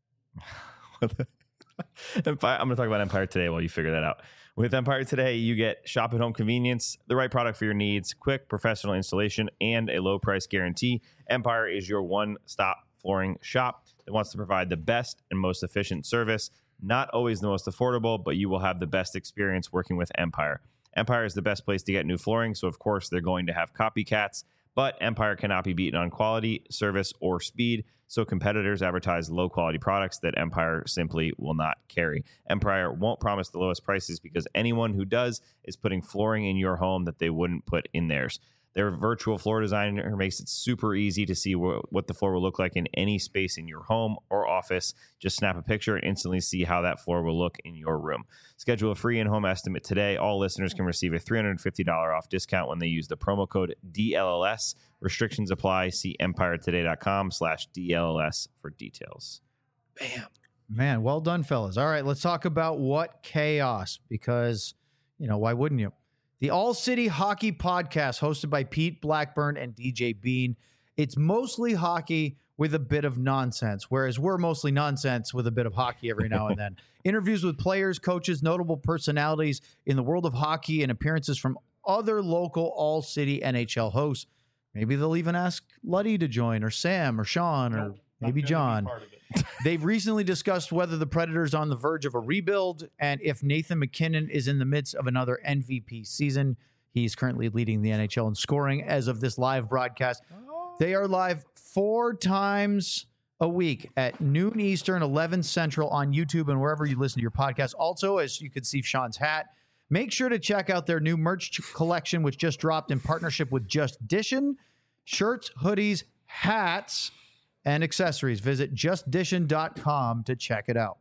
Empire, I'm going to talk about Empire Today while you figure that out. With Empire Today, you get shop at home convenience, the right product for your needs, quick professional installation, and a low price guarantee. Empire is your one-stop flooring shop that wants to provide the best and most efficient service. Not always the most affordable, but you will have the best experience working with Empire. Empire is the best place to get new flooring, so of course they're going to have copycats, but Empire cannot be beaten on quality, service, or speed, so competitors advertise low-quality products that Empire simply will not carry. Empire won't promise the lowest prices because anyone who does is putting flooring in your home that they wouldn't put in theirs. Their virtual floor designer makes it super easy to see wh- what the floor will look like in any space in your home or office. Just snap a picture and instantly see how that floor will look in your room. Schedule a free in-home estimate today. All listeners can receive a three hundred fifty dollars off discount when they use the promo code D L L S. Restrictions apply. See empire today dot com slash D L L S for details. Bam. Man, well done, fellas. All right, let's talk about what chaos, because, you know, why wouldn't you? The All City Hockey Podcast, hosted by Pete Blackburn and D J Bean. It's mostly hockey with a bit of nonsense, whereas we're mostly nonsense with a bit of hockey every now and then. Interviews with players, coaches, notable personalities in the world of hockey, and appearances from other local All City N H L hosts. Maybe they'll even ask Luddy to join, or Sam, or Sean, or Nope, maybe not gonna be John. part of it. They've recently discussed whether the Predators are on the verge of a rebuild and if Nathan McKinnon is in the midst of another M V P season. He's currently leading the N H L in scoring as of this live broadcast. They are live four times a week at noon Eastern, eleven Central on YouTube and wherever you listen to your podcast. Also, as you can see Sean's hat, make sure to check out their new merch collection, which just dropped in partnership with Just Dishin. Shirts, hoodies, hats, and accessories. Visit just dishin dot com to check it out.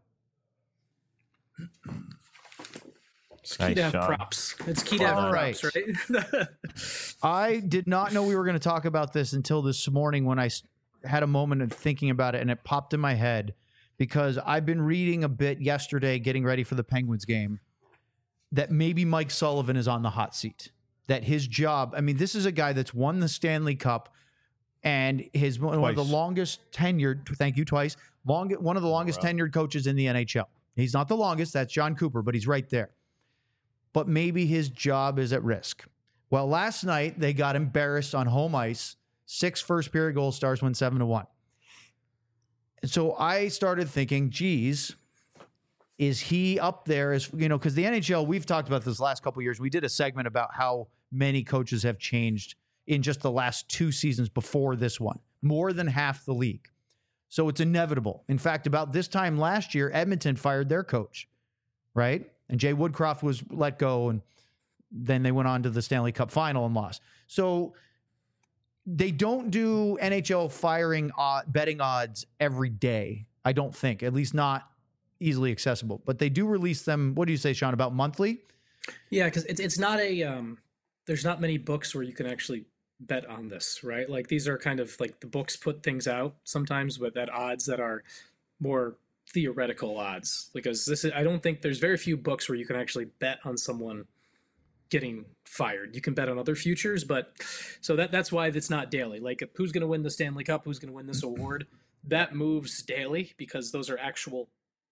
It's key Nice, to have Sean. props. It's key to have All props, right? I did not know we were going to talk about this until this morning when I s- had a moment of thinking about it, and it popped in my head because I've been reading a bit yesterday, getting ready for the Penguins game, that maybe Mike Sullivan is on the hot seat. That his job, I mean, this is a guy that's won the Stanley Cup and his one of the Twice. longest tenured, thank you, twice, long, one of the longest tenured coaches in the N H L. He's not the longest, that's John Cooper, but he's right there. But maybe his job is at risk. Well, last night they got embarrassed on home ice. Six first period goal, Stars win seven to one. And so I started thinking, geez, is he up there as, you know, because the N H L, we've talked about this last couple of years. We did a segment about how many coaches have changed in just the last two seasons before this one, more than half the league. So it's inevitable. In fact, about this time last year, Edmonton fired their coach, right? And Jay Woodcroft was let go, and then they went on to the Stanley Cup final and lost. So they don't do N H L firing uh, betting odds every day, I don't think, at least not easily accessible. But they do release them. What do you say, Sean? About monthly? Yeah, because it's it's not a um, there's not many books where you can actually bet on this, right? Like these are kind of like the books put things out sometimes, but at odds that are more theoretical odds. Because this is, I don't think there's very few books where you can actually bet on someone getting fired. You can bet on other futures, but so that that's why it's not daily. Like who's going to win the Stanley Cup, who's going to win this award, that moves daily because those are actual.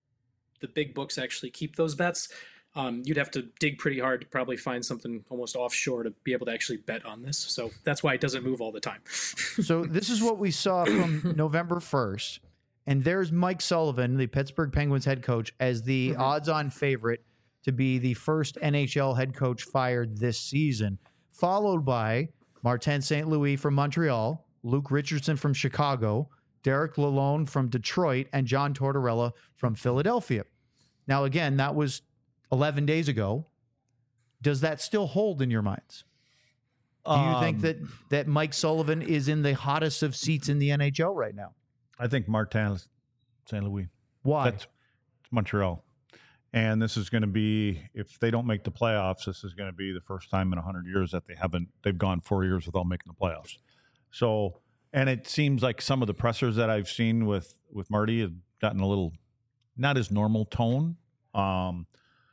The big books actually keep those bets. Um, you'd have to dig pretty hard to probably find something almost offshore to be able to actually bet on this. So that's why it doesn't move all the time. So this is what we saw from November first. And there's Mike Sullivan, the Pittsburgh Penguins head coach, as the mm-hmm. odds-on favorite to be the first N H L head coach fired this season, followed by Martin Saint Louis from Montreal, Luke Richardson from Chicago, Derek Lalonde from Detroit, and John Tortorella from Philadelphia. Now, again, that was eleven days ago. Does that still hold in your minds? Do you um, think that, that Mike Sullivan is in the hottest of seats in the N H L right now? I think Martin Saint Louis. Why? That's it's Montreal. And this is going to be, if they don't make the playoffs, this is going to be the first time in one hundred years that they haven't, they've gone four years without making the playoffs. So, and it seems like some of the pressers that I've seen with, with Marty have gotten a little, not his normal tone. Um,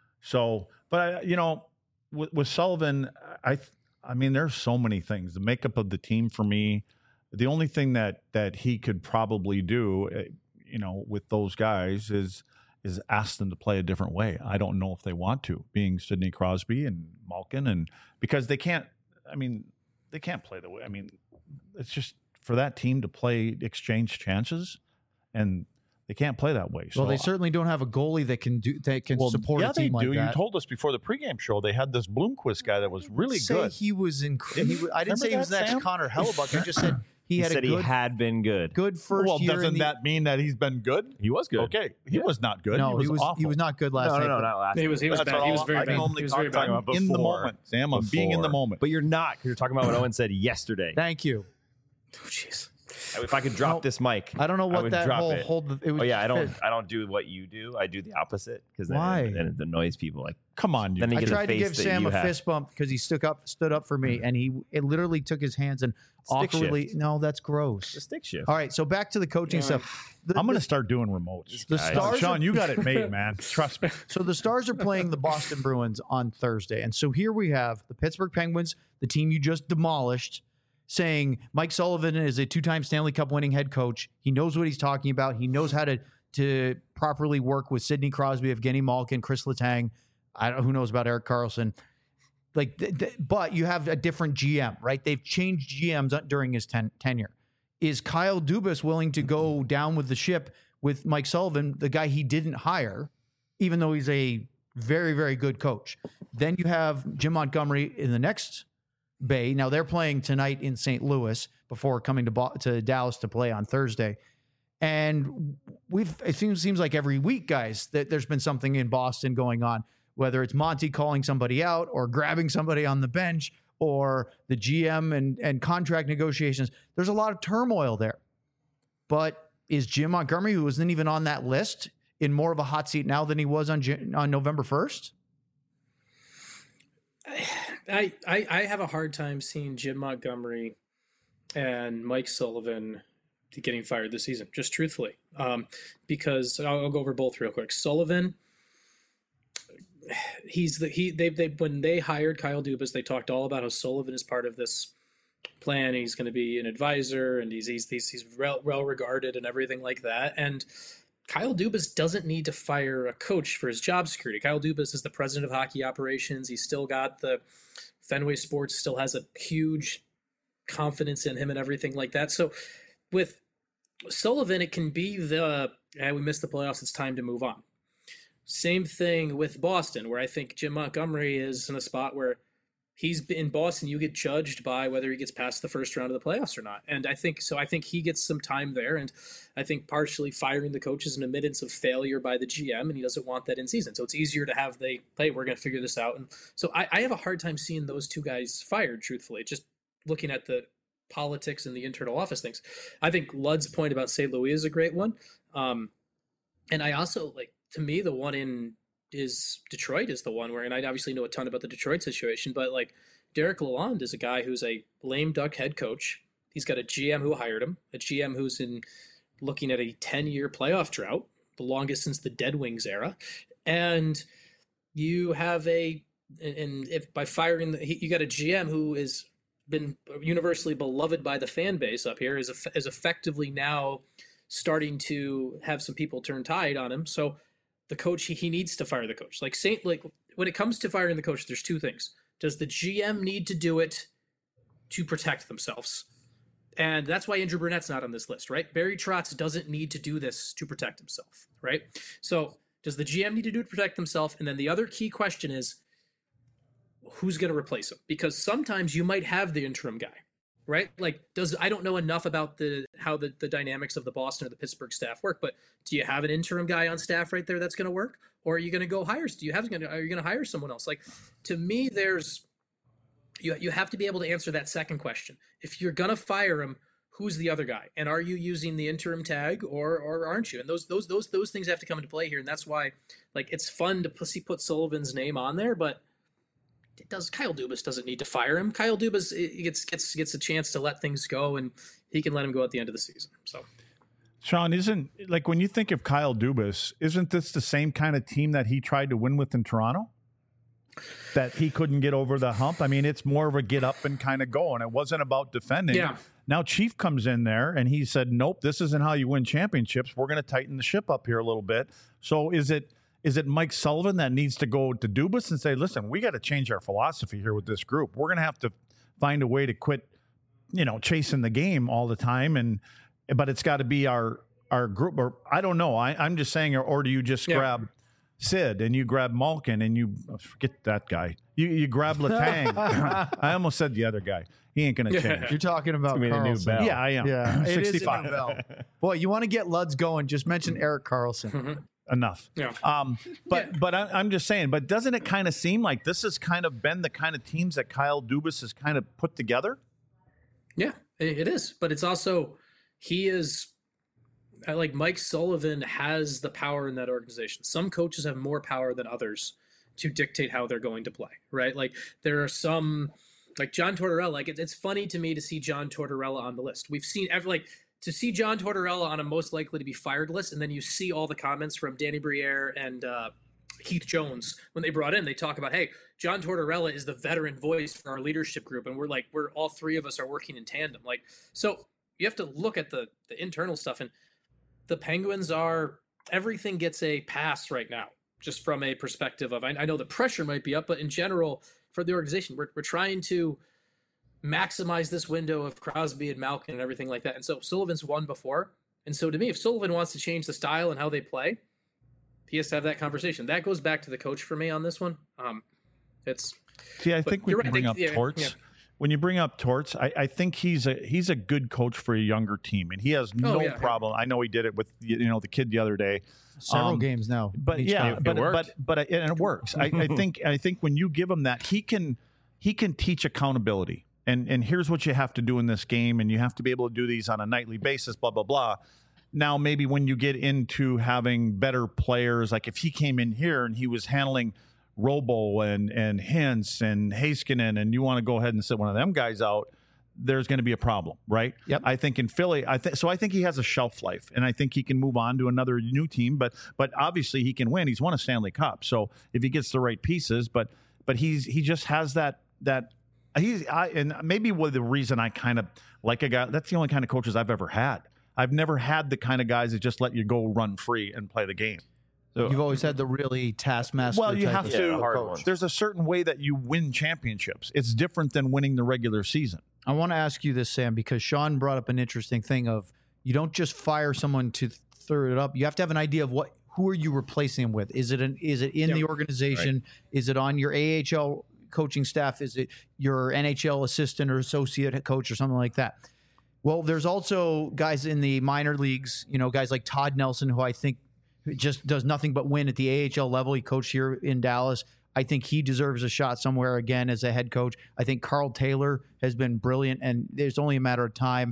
so, but I, you know, with, with Sullivan, I, I mean, there's so many things. The makeup of the team for me, the only thing that that he could probably do, you know, with those guys is is ask them to play a different way. I don't know if they want to, being Sidney Crosby and Malkin, and because they can't. I mean, they can't play the way. I mean, it's just for that team to play exchange chances, and they can't play that way. So well, they certainly don't have a goalie that can do that can well, support yeah, a team they do. like that. You told us before the pregame show they had this Bloomquist guy that was really say good. He was incredible. I didn't Remember say he was that, next Sam? Connor Hellebuck. I just said he, He had said a good, he had been good. good first well, year. doesn't in the, that mean that he's been good? He was good. Okay, he Yeah. was not good. No, he was, he was awful. he was not good last No, night. no, no, but- not last. He was he was That's bad. all He was very I bad. can only He was talk very bad. about before. in the moment, Sam. I'm being in the Before. moment. But you're not, because you're talking about what Owen said yesterday. Thank you. Oh jeez. If I could drop No, this mic, I don't know I what would that drop whole it. hold. It was Oh yeah, I don't. fit. I don't do what you do. I do the opposite because then, Why? then it annoys people. Like, Come on, you. Then he I get a tried to face give that Sam you a have. fist bump because he stood up stood up for me, and he it literally took his hands and Stick awkwardly. shift. No, that's gross. the stick shift. All right, so back to the coaching stuff. The- I'm going to the- start doing remotes. The guy. Stars Sean, are- you got it made, man. Trust me. So the Stars are playing the Boston Bruins on Thursday. And so here we have the Pittsburgh Penguins, the team you just demolished, saying Mike Sullivan is a two-time Stanley Cup winning head coach. He knows what he's talking about. He knows how to to properly work with Sidney Crosby, Evgeny Malkin, Chris Letang. I don't know who knows about Erik Karlsson. Like, th- th- but you have a different G M, right? They've changed G Ms during his ten- tenure. Is Kyle Dubas willing to go down with the ship with Mike Sullivan, the guy he didn't hire, even though he's a very, very good coach? Then you have Jim Montgomery in the next bay. Now they're playing tonight in Saint Louis before coming to Bo- to Dallas to play on Thursday. And we've it seems seems like every week, guys, that there's been something in Boston going on, whether it's Monty calling somebody out or grabbing somebody on the bench or the G M and, and contract negotiations. There's a lot of turmoil there. But is Jim Montgomery, who wasn't even on that list, in more of a hot seat now than he was on Jan- on November first? I, I I have a hard time seeing Jim Montgomery and Mike Sullivan getting fired this season, just truthfully. Um, because I'll, I'll go over both real quick. Sullivan, he's the he they they when they hired Kyle Dubas, they talked all about how Sullivan is part of this plan. He's going to be an advisor, and he's he's he's, he's well, well regarded and everything like that. And Kyle Dubas doesn't need to fire a coach for his job security. Kyle Dubas is the president of hockey operations. He's still got the Fenway Sports, still has a huge confidence in him and everything like that. So with Sullivan, it can be the, hey, we missed the playoffs, it's time to move on. Same thing with Boston, where I think Jim Montgomery is in a spot where he's in Boston, you get judged by whether he gets past the first round of the playoffs or not. And I think so. I think he gets some time there. And I think partially firing the coach is an admittance of failure by the G M, and he doesn't want that in season. So it's easier to have they play, we're going to figure this out. And so I, I have a hard time seeing those two guys fired, truthfully, just looking at the politics and the internal office things. I think Ludd's point about Saint Louis is a great one. Um, and I also like, to me, the one in is Detroit is the one where, and I obviously know a ton about the Detroit situation, but like Derek Lalonde is a guy who's a lame duck head coach. He's got a G M who hired him, a G M who's in looking at a ten-year playoff drought, the longest since the Dead Wings era. And you have a, and if by firing, the, you got a G M who has been universally beloved by the fan base up here, is, is effectively now starting to have some people turn tide on him. So the coach, he, he needs to fire the coach. Like Saint, like when it comes to firing the coach, there's two things. Does the G M need to do it to protect themselves? And that's why Andrew Burnett's not on this list, right? Barry Trotz doesn't need to do this to protect himself, right? So does the G M need to do it to protect himself? And then the other key question is, who's going to replace him? Because sometimes you might have the interim guy, right? Like, does I don't know enough about the how the, the dynamics of the Boston or the Pittsburgh staff work, but do you have an interim guy on staff right there that's going to work? Or are you going to go hire? Do you have are you going to hire someone else? Like, to me, there's you you have to be able to answer that second question. If you're going to fire him, who's the other guy? And are you using the interim tag or or aren't you? And those those those those things have to come into play here. And that's why, like, it's fun to pussy put Sullivan's name on there, but it does Kyle Dubas doesn't need to fire him. Kyle Dubas gets gets gets a chance to let things go, and he can let him go at the end of the season. So, Sean, isn't like when you think of Kyle Dubas, isn't this the same kind of team that he tried to win with in Toronto? That he couldn't get over the hump. I mean, it's more of a get up and kind of go, and it wasn't about defending. Yeah. Now Chief comes in there and he said, "Nope, this isn't how you win championships. We're going to tighten the ship up here a little bit." So is it is it Mike Sullivan that needs to go to Dubas and say, "Listen, we got to change our philosophy here with this group. We're going to have to find a way to quit, you know, chasing the game all the time, and but it's got to be our our group." Or I don't know. I, I'm just saying, or, or do you just Yeah. grab Sid and you grab Malkin and you forget that guy. You you grab Letang. I almost said the other guy. He ain't going to change. You're talking about gonna be the new Carlson. Bell. Yeah, I am. Yeah, it is a new sixty-five. Bell. Boy, you want to get Luds going? Just mention Eric Carlson. Enough. Yeah. Um, but Yeah. but I, I'm just saying. But doesn't it kind of seem like this has kind of been the kind of teams that Kyle Dubas has kind of put together? Yeah, it it is. But it's also, he is, I like Mike Sullivan has the power in that organization. Some coaches have more power than others to dictate how they're going to play, right? Like there are some, like John Tortorella, like it's, it's funny to me to see John Tortorella on the list. We've seen every, like to see John Tortorella on a most likely to be fired list. And then you see all the comments from Danny Briere and uh, Keith Jones when they brought in, they talk about, hey, John Tortorella is the veteran voice for our leadership group. And we're like, we're all three of us are working in tandem. Like, so you have to look at the the internal stuff, and the Penguins are, everything gets a pass right now, just from a perspective of, I, I know the pressure might be up, but in general for the organization, we're, we're trying to maximize this window of Crosby and Malkin and everything like that. And so Sullivan's won before. And so to me, if Sullivan wants to change the style and how they play, he has to have that conversation. That goes back to the coach for me on this one. Um, it's See, I But think we you're can right. bring They- up yeah, Torts. yeah. When you bring up Torts, I, I think he's a he's a good coach for a younger team, and he has no Oh, yeah, yeah. problem. I know he did it with you know the kid the other day. Several Um, games now. But each yeah, time. It but worked. but but it, and it works. I, I think I think when you give him that, he can he can teach accountability. And and here's what you have to do in this game, and you have to be able to do these on a nightly basis. Blah blah blah. Now maybe when you get into having better players, like if he came in here and he was handling Robo and and Hintz and Heiskanen, and you want to go ahead and sit one of them guys out, there's going to be a problem, right? Yep. I think in Philly, I think so. I think he has a shelf life, and I think he can move on to another new team. But but obviously he can win. He's won a Stanley Cup, so if he gets the right pieces, but but he's he just has that that he's I and maybe what the reason I kind of like a guy. That's the only kind of coaches I've ever had. I've never had the kind of guys that just let you go run free and play the game. So, You've always had the really taskmaster. well, you type have of to. Yeah, the hard coach. ones. There's a certain way that you win championships. It's different than winning the regular season. I want to ask you this, Sam, because Sean brought up an interesting thing of you don't just fire someone to throw it up. You have to have an idea of what who are you replacing him with? Is it an is it in Yep. the organization? Is it on your A H L coaching staff? Is it your N H L assistant or associate coach or something like that? Well, there's also guys in the minor leagues, you know, guys like Todd Nelson, who I think just does nothing but win at the A H L level. He coached here in Dallas. I think he deserves a shot somewhere again as a head coach. I think Carl Taylor has been brilliant, and there's only a matter of time.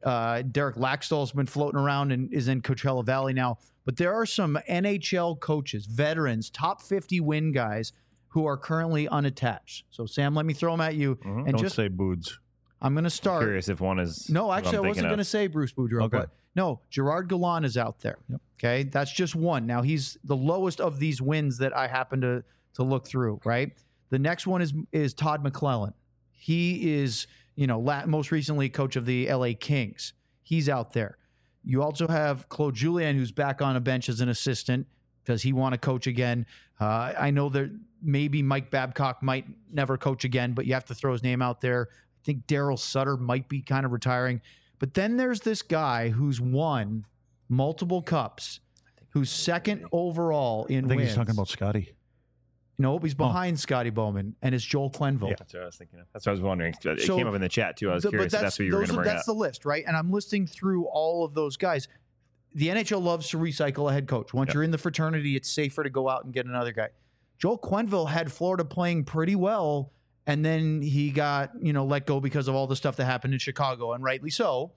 Uh, Derek Laxdal's been floating around and is in Coachella Valley now. But there are some N H L coaches, veterans, top fifty win guys who are currently unattached. So, Sam, let me throw them at you. Mm-hmm. And Don't just say Boods. I'm going to start. I'm curious if one is. No, actually, I wasn't going to to say Bruce Boudreau, Okay. but no, Gerard Gallant is out there. Yep. Okay, that's just one. Now he's the lowest of these wins that I happen to to look through. Right, the next one is is Todd McClellan. He is, you know, la- most recently coach of the L A Kings. He's out there. You also have Claude Julien, who's back on a bench as an assistant. Does he want to coach again? Uh, I know that maybe Mike Babcock might never coach again, but you have to throw his name out there. I think Daryl Sutter might be kind of retiring. But then there's this guy who's won multiple cups, who's second overall in I think wins. he's talking about Scotty. Nope, he's behind Scotty Bowman, and it's Joel Quenneville. Yeah, that's what I was thinking of. That's what I was wondering. It So- came up in the chat too. I was The- curious if that's what you were those going to are- bring That's up. the list, right? And I'm listing through all of those guys. The N H L loves to recycle a head coach. Once Yeah. you're in the fraternity, it's safer to go out and get another guy. Joel Quenneville had Florida playing pretty well, and then he got, you know, let go because of all the stuff that happened in Chicago, and rightly so.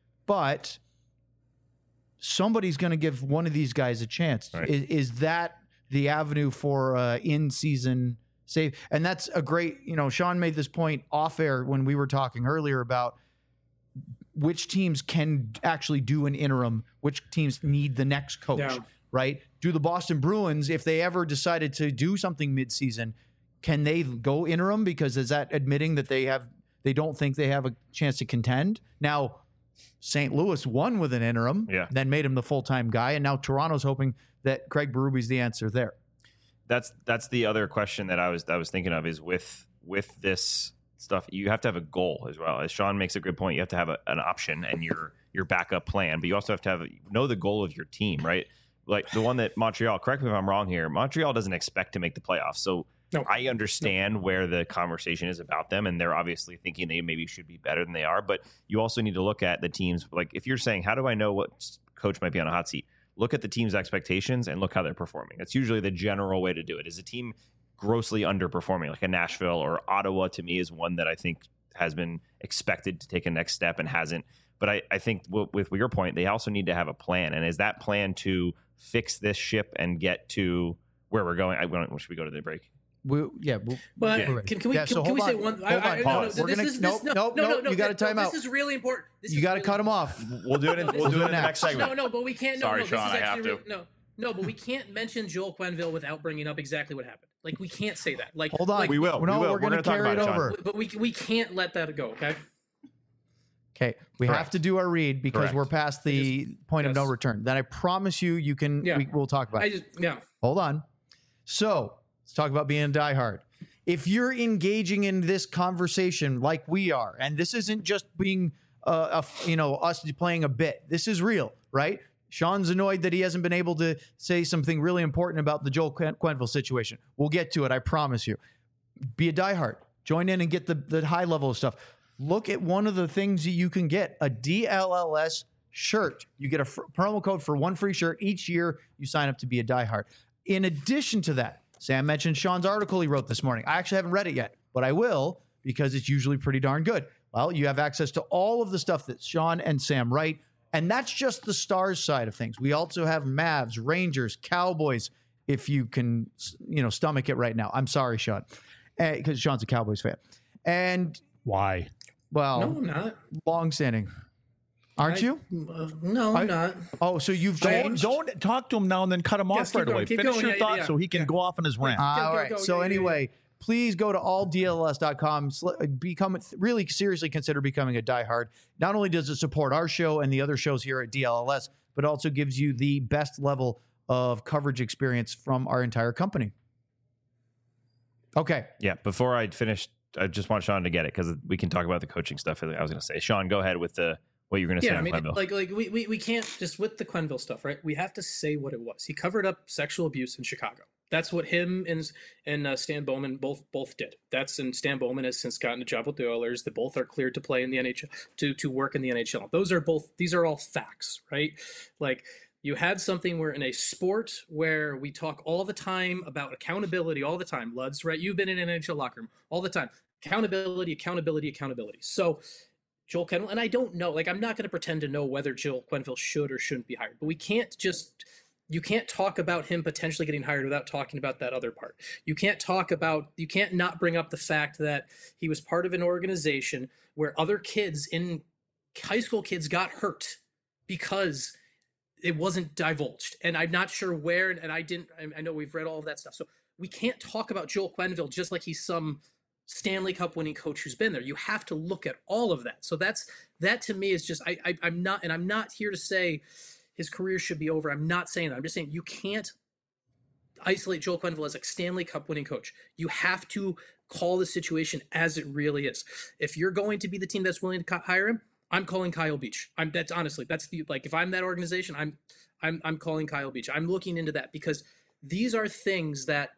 But somebody's going to give one of these guys a chance. Right. Is, is that the avenue for uh, in-season save? And that's a great, you know, Sean made this point off air when we were talking earlier about which teams can actually do an interim, which teams need the next coach, Yeah. right? Do the Boston Bruins, if they ever decided to do something midseason, can they go interim? Because is that admitting that they have they don't think they have a chance to contend? Now, Saint Louis won with an interim, Yeah. then made him the full-time guy, and now Toronto's hoping that Craig Berube's the answer there. That's that's the other question that I was I was thinking of is with with this stuff you have to have a goal as well. As Sean makes a good point, you have to have a, an option and your your backup plan, but you also have to have know the goal of your team, right? Like the one that Montreal. Correct me if I'm wrong here. Montreal doesn't expect to make the playoffs, so No. I understand where the conversation is about them, and they're obviously thinking they maybe should be better than they are. But you also need to look at the teams. Like if you're saying, how do I know what coach might be on a hot seat? Look at the team's expectations and look how they're performing. That's usually the general way to do it. Is a team grossly underperforming, like a Nashville or Ottawa, to me is one that I think has been expected to take a next step and hasn't. But I, I think w- with your point, they also need to have a plan. And is that plan to fix this ship and get to where we're going? I, should we go to the break? We, yeah, we'll, But Yeah. can, can we Yeah, can, so can we hold say on. one? Hold I, I, on, no, no, pause. this We're gonna- is, nope, this, nope, no, no, nope, no, you gotta no, time this out. is really important. This you is got to really cut him off. We'll do it in, we'll do it in the next segment. No, no, but we can't. No, Sorry, no, this Sean, is I have actually to. re- no, no, but we can't mention Joel Quenneville without bringing up exactly what happened. Like we can't say that. Like Hold on. like, We will. No, we will. we're going to talk carry it about Sean. over. But we we can't let that go. Okay. Okay, we Correct. have to do our read because Correct. we're past the point of no yes. return. Then I promise you, you can. Yeah. We, we'll talk about. I it. just yeah. Hold on. So let's talk about being a diehard. If you're engaging in this conversation like we are, and this isn't just being, uh, a, you know, us playing a bit. This is real, right? Sean's annoyed that he hasn't been able to say something really important about the Joel Quen- Quenneville situation. We'll get to it, I promise you. Be a diehard. Join in and get the, the high level of stuff. Look at one of the things that you can get, a D L L S shirt. You get a fr- promo code for one free shirt each year you sign up to be a diehard. In addition to that, Sam mentioned Sean's article he wrote this morning. I actually haven't read it yet, but I will because it's usually pretty darn good. Well, you have access to all of the stuff that Sean and Sam write, and that's just the Stars side of things. We also have Mavs, Rangers, Cowboys, if you can, you know, stomach it right now. I'm sorry, Sean, because Sean's a Cowboys fan. And, Why? well, No, I'm not. long-standing. Aren't I- you? Uh, no, I'm not. Oh, so you've Don't, changed? don't talk to him now and then cut him Yes, off keep right going, away. keep Finish going. your Yeah, thoughts yeah, so he can yeah. go off on his rant. All Go, go, right. go. So Yeah, yeah, anyway, please go to all D L S dot com. Sl- Become really seriously consider becoming a diehard. Not only does it support our show and the other shows here at D L L S, but also gives you the best level of coverage experience from our entire company. Okay. Yeah, before I finish, I just want Sean to get it because we can talk about the coaching stuff. I was going to say, Sean, go ahead with the what you're going to say Yeah, I on mean, Quenneville. like, like we, we, we can't just with the Quenneville stuff, right? We have to say what it was. He covered up sexual abuse in Chicago. That's what him and and uh, Stan Bowman both both did. That's and Stan Bowman has since gotten a job with the Oilers. They both are cleared to play in the N H L to to work in the N H L. Those are both. These are all facts, right? Like you had something where in a sport where we talk all the time about accountability, all the time, Luds, right? You've been in an N H L locker room all the time. Accountability, accountability, accountability. So Joel Quenneville, and I don't know, like, I'm not going to pretend to know whether Joel Quenneville should or shouldn't be hired, but we can't just, you can't talk about him potentially getting hired without talking about that other part. You can't talk about, you can't not bring up the fact that he was part of an organization where other kids in high school kids got hurt because it wasn't divulged. And I'm not sure where, and I didn't, I know we've read all of that stuff. So we can't talk about Joel Quenneville just like he's some Stanley Cup winning coach who's been there. You have to look at all of that. So that's, that to me is just, I, I I'm not, and I'm not here to say his career should be over. I'm not saying that. I'm just saying you can't isolate Joel Quenneville as a Stanley Cup winning coach. You have to call the situation as it really is. If you're going to be the team that's willing to hire him, I'm calling Kyle Beach. I'm that's honestly, that's the, like, if I'm that organization, I'm, I'm, I'm calling Kyle Beach. I'm looking into that because these are things that,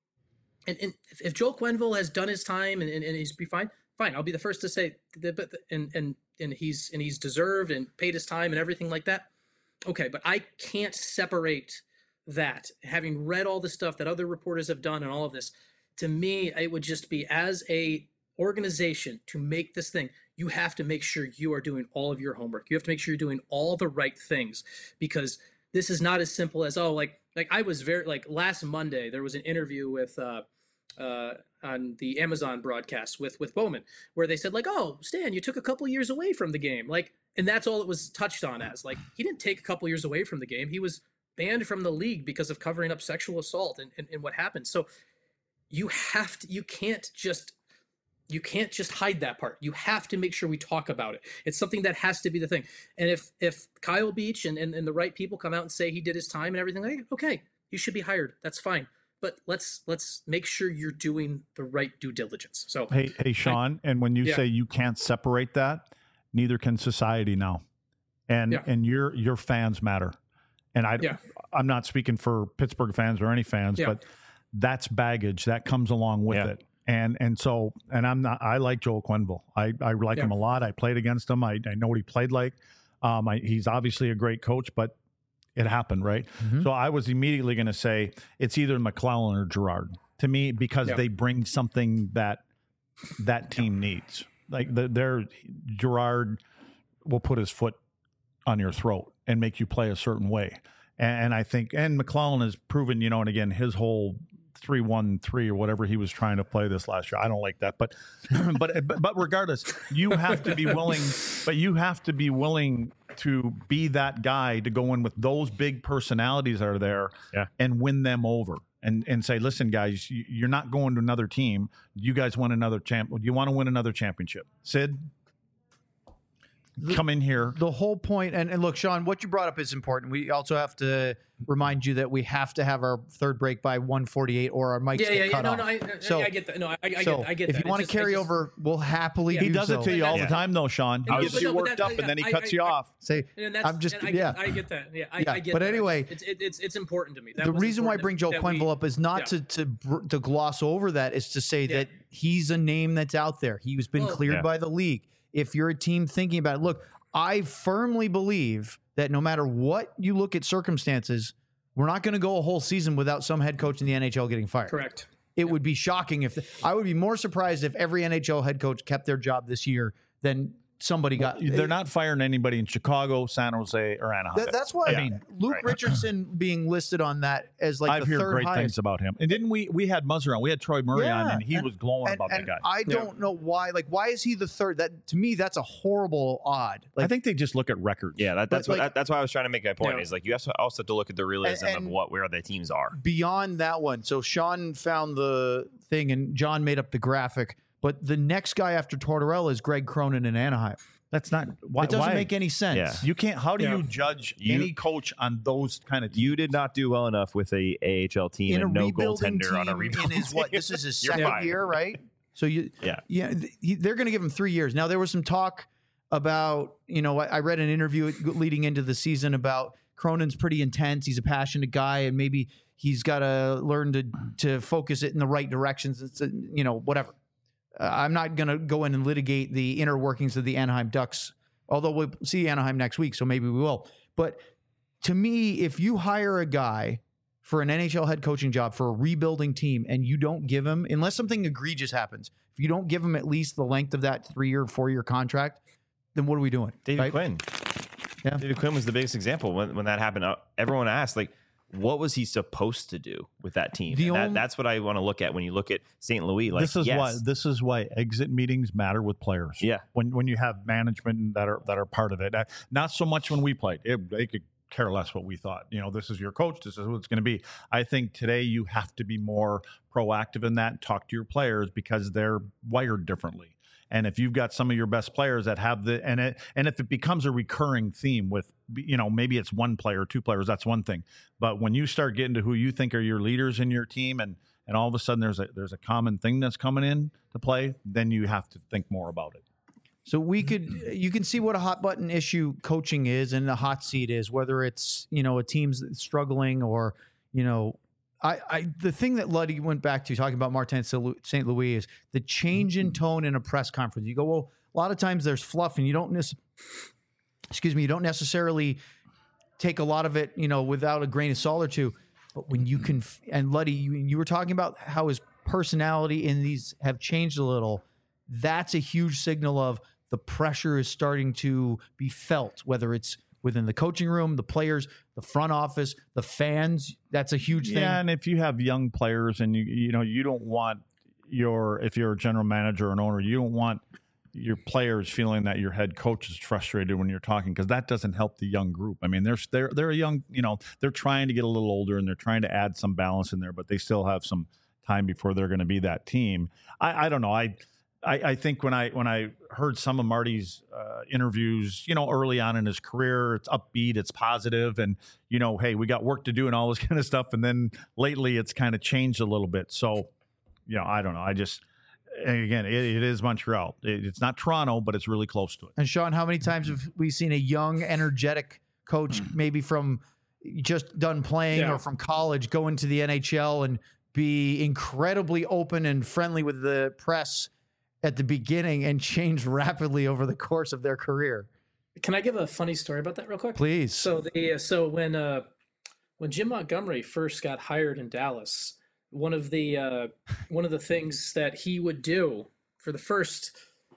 And, and if, if Joel Quenneville has done his time and, and, and he's be fine, fine. I'll be the first to say that, but and and and he's and he's deserved and paid his time and everything like that. Okay, but I can't separate that. Having read all the stuff that other reporters have done and all of this, to me, it would just be, as a organization, to make this thing, you have to make sure you are doing all of your homework. You have to make sure you're doing all the right things, because this is not as simple as, oh, like like I was very like last Monday there was an interview with. Uh, Uh, on the Amazon broadcast with with Bowman, where they said, like, oh, Stan, you took a couple years away from the game, like, and that's all it was touched on as. Like, he didn't take a couple years away from the game. He was banned from the league because of covering up sexual assault and, and, and what happened. So you have to, you can't just, you can't just hide that part. You have to make sure we talk about it. It's something that has to be the thing. And if if Kyle Beach and, and, and the right people come out and say he did his time and everything, like, okay, you should be hired. That's fine. But let's let's make sure you're doing the right due diligence. So hey, hey, Sean, and when you yeah. say you can't separate that, neither can society now, and Yeah. and your your fans matter. And I, Yeah. I'm not speaking for Pittsburgh fans or any fans, Yeah. but that's baggage that comes along with Yeah. it. And and so and I'm not. I like Joel Quenneville. I I like Yeah. him a lot. I played against him. I I know what he played like. Um, I, he's obviously a great coach, but it happened, right? Mm-hmm. So I was immediately going to say it's either McClellan or Girard to me, because Yeah. they bring something that that team needs. Like the, their Girard will put his foot on your throat and make you play a certain way. And, and I think, and McClellan has proven, you know, and again, his whole three one three or whatever he was trying to play this last year. I don't like that, but but but regardless, you have to be willing. But you have to be willing to be that guy to go in with those big personalities that are there, Yeah. and win them over, and and say, listen, guys, you- you're not going to another team. You guys want another champ. You want to win another championship, Sid. Come in here. The whole point, and, and look, Sean, what you brought up is important. We also have to remind you that we have to have our third break by one forty-eight, or our mics yeah, get yeah, yeah. cut No, off. no, I, So- I, I get that. No, I, I so get, I get if that. you want to It's just- carry I just- over, we'll happily Yeah. do He does so. it to you all Yeah. the time, though, Sean. He No, gets but you no, but worked that- up, and then he I- cuts I- you I- off. Say, And that's, I'm just, and I, yeah. I get that. Yeah, I, Yeah, I get but that. anyway- it's, it, it's it's important to me. That the was reason why I important bring Joe that we- Quenneville up is not yeah. to to br- to gloss over that. It's to say Yeah. that he's a name that's out there. He's been Well- cleared Yeah. by the league. If you're a team thinking about it, look, I firmly believe that no matter what you look at circumstances, we're not going to go a whole season without some head coach in the N H L getting fired. Correct. It would be shocking if I would be more surprised if every N H L head coach kept their job this year than somebody got. They're not firing anybody in Chicago, San Jose, or Anaheim. That- that's why I mean, Luke right. Richardson being listed on that as like I've the heard third great highest. things about him. And didn't we? We had Muzzer on. We had Troy Murray on, Yeah, and he and- was glowing And, about and that guy. I don't know why. Like, why is he the third? That to me, that's a horrible odd. Like, I think they just look at records. Yeah, that, that's But, what like- that's why I was trying to make my point. Yeah. Is like you also also have to look at the realism And- of and- what where the teams are. beyond that one. So Sean found the thing, and John made up the graphic. But the next guy after Tortorella is Greg Cronin in Anaheim. That's not. Why, It doesn't why? make any sense. Yeah. You can't. How do Yeah. you judge You- any coach on those kind of? You did not do well enough with a A H L team In a and no rebuilding goaltender team, on a in rebuilding his what? team. This is his You're second fine. year, right? So you, Yeah. yeah, th- he, they're going to give him three years. Now there was some talk about, you know, I, I read an interview leading into the season about Cronin's pretty intense. He's a passionate guy, and maybe he's got to learn to to focus it in the right directions. It's a, you know, whatever. Uh, I'm not going to go in and litigate the inner workings of the Anaheim Ducks, although we'll see Anaheim next week, so maybe we will. But to me, if you hire a guy for an N H L head coaching job for a rebuilding team and you don't give him, unless something egregious happens, if you don't give him at least the length of that three-year, four-year contract, then what are we doing? David right? Quinn. Yeah. David Quinn was the biggest example when, when that happened. Uh, everyone asked, like, what was he supposed to do with that team? The And that, only- that's what I want to look at when you look at Saint Louis. Like, this is yes, why this is why exit meetings matter with players. Yeah. when when you have management that are that are part of it. Uh, Not so much when we played. It, they could care less what we thought. You know, this is your coach. This is what it's going to be. I think today you have to be more proactive in that. Talk to your players because they're wired differently. And if you've got some of your best players that have the and it and if it becomes a recurring theme with, you know, maybe it's one player, two players, that's one thing. But when you start getting to who you think are your leaders in your team, and and all of a sudden there's a there's a common thing that's coming in to play, then you have to think more about it. So we could, you can see what a hot button issue coaching is and a hot seat is, whether it's, you know, a team's struggling or, you know, I, I the thing that Luddy went back to talking about Martin Saint Louis is the change in tone in a press conference. You go, well, a lot of times there's fluff and you don't, nec- excuse me, you don't necessarily take a lot of it, you know, without a grain of salt or two. But when you can, and Luddy, you, you were talking about how his personality in these have changed a little. That's a huge signal of the pressure is starting to be felt, whether it's within the coaching room, the players, the front office, the fans. That's a huge thing. Yeah, and if you have young players and you you know you don't want your if you're a general manager or an owner, you don't want your players feeling that your head coach is frustrated when you're talking, because that doesn't help the young group. I mean, they're they're they're a young, you know, they're trying to get a little older and they're trying to add some balance in there, but they still have some time before they're going to be that team. I, I don't know. I, I I think when I when I heard some of Marty's uh, interviews, you know, early on in his career, it's upbeat, it's positive, and you know, hey, we got work to do and all this kind of stuff. And then lately, it's kind of changed a little bit. So, you know, I don't know. I just. And again, it, it is Montreal. It, it's not Toronto, but it's really close to it. And Sean, how many times have we seen a young, energetic coach, maybe from just done playing Yeah. or from college, go into the N H L and be incredibly open and friendly with the press at the beginning and change rapidly over the course of their career? Can I give a funny story about that real quick? Please. So the so when uh, when Jim Montgomery first got hired in Dallas, one of the uh, one of the things that he would do for the first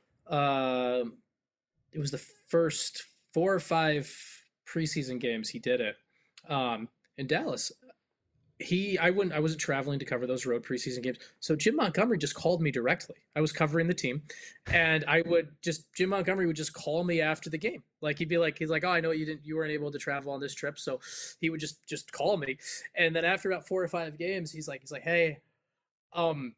uh, it was the first four or five preseason games he did it um, in Dallas. He I wouldn't I wasn't traveling to cover those road preseason games, so Jim Montgomery just called me directly. I was covering the team, and I would just Jim Montgomery would just call me after the game. Like he'd be like he's like, oh, I know you didn't you weren't able to travel on this trip, so he would just just call me. And then after about four or five games, he's like he's like, hey, um,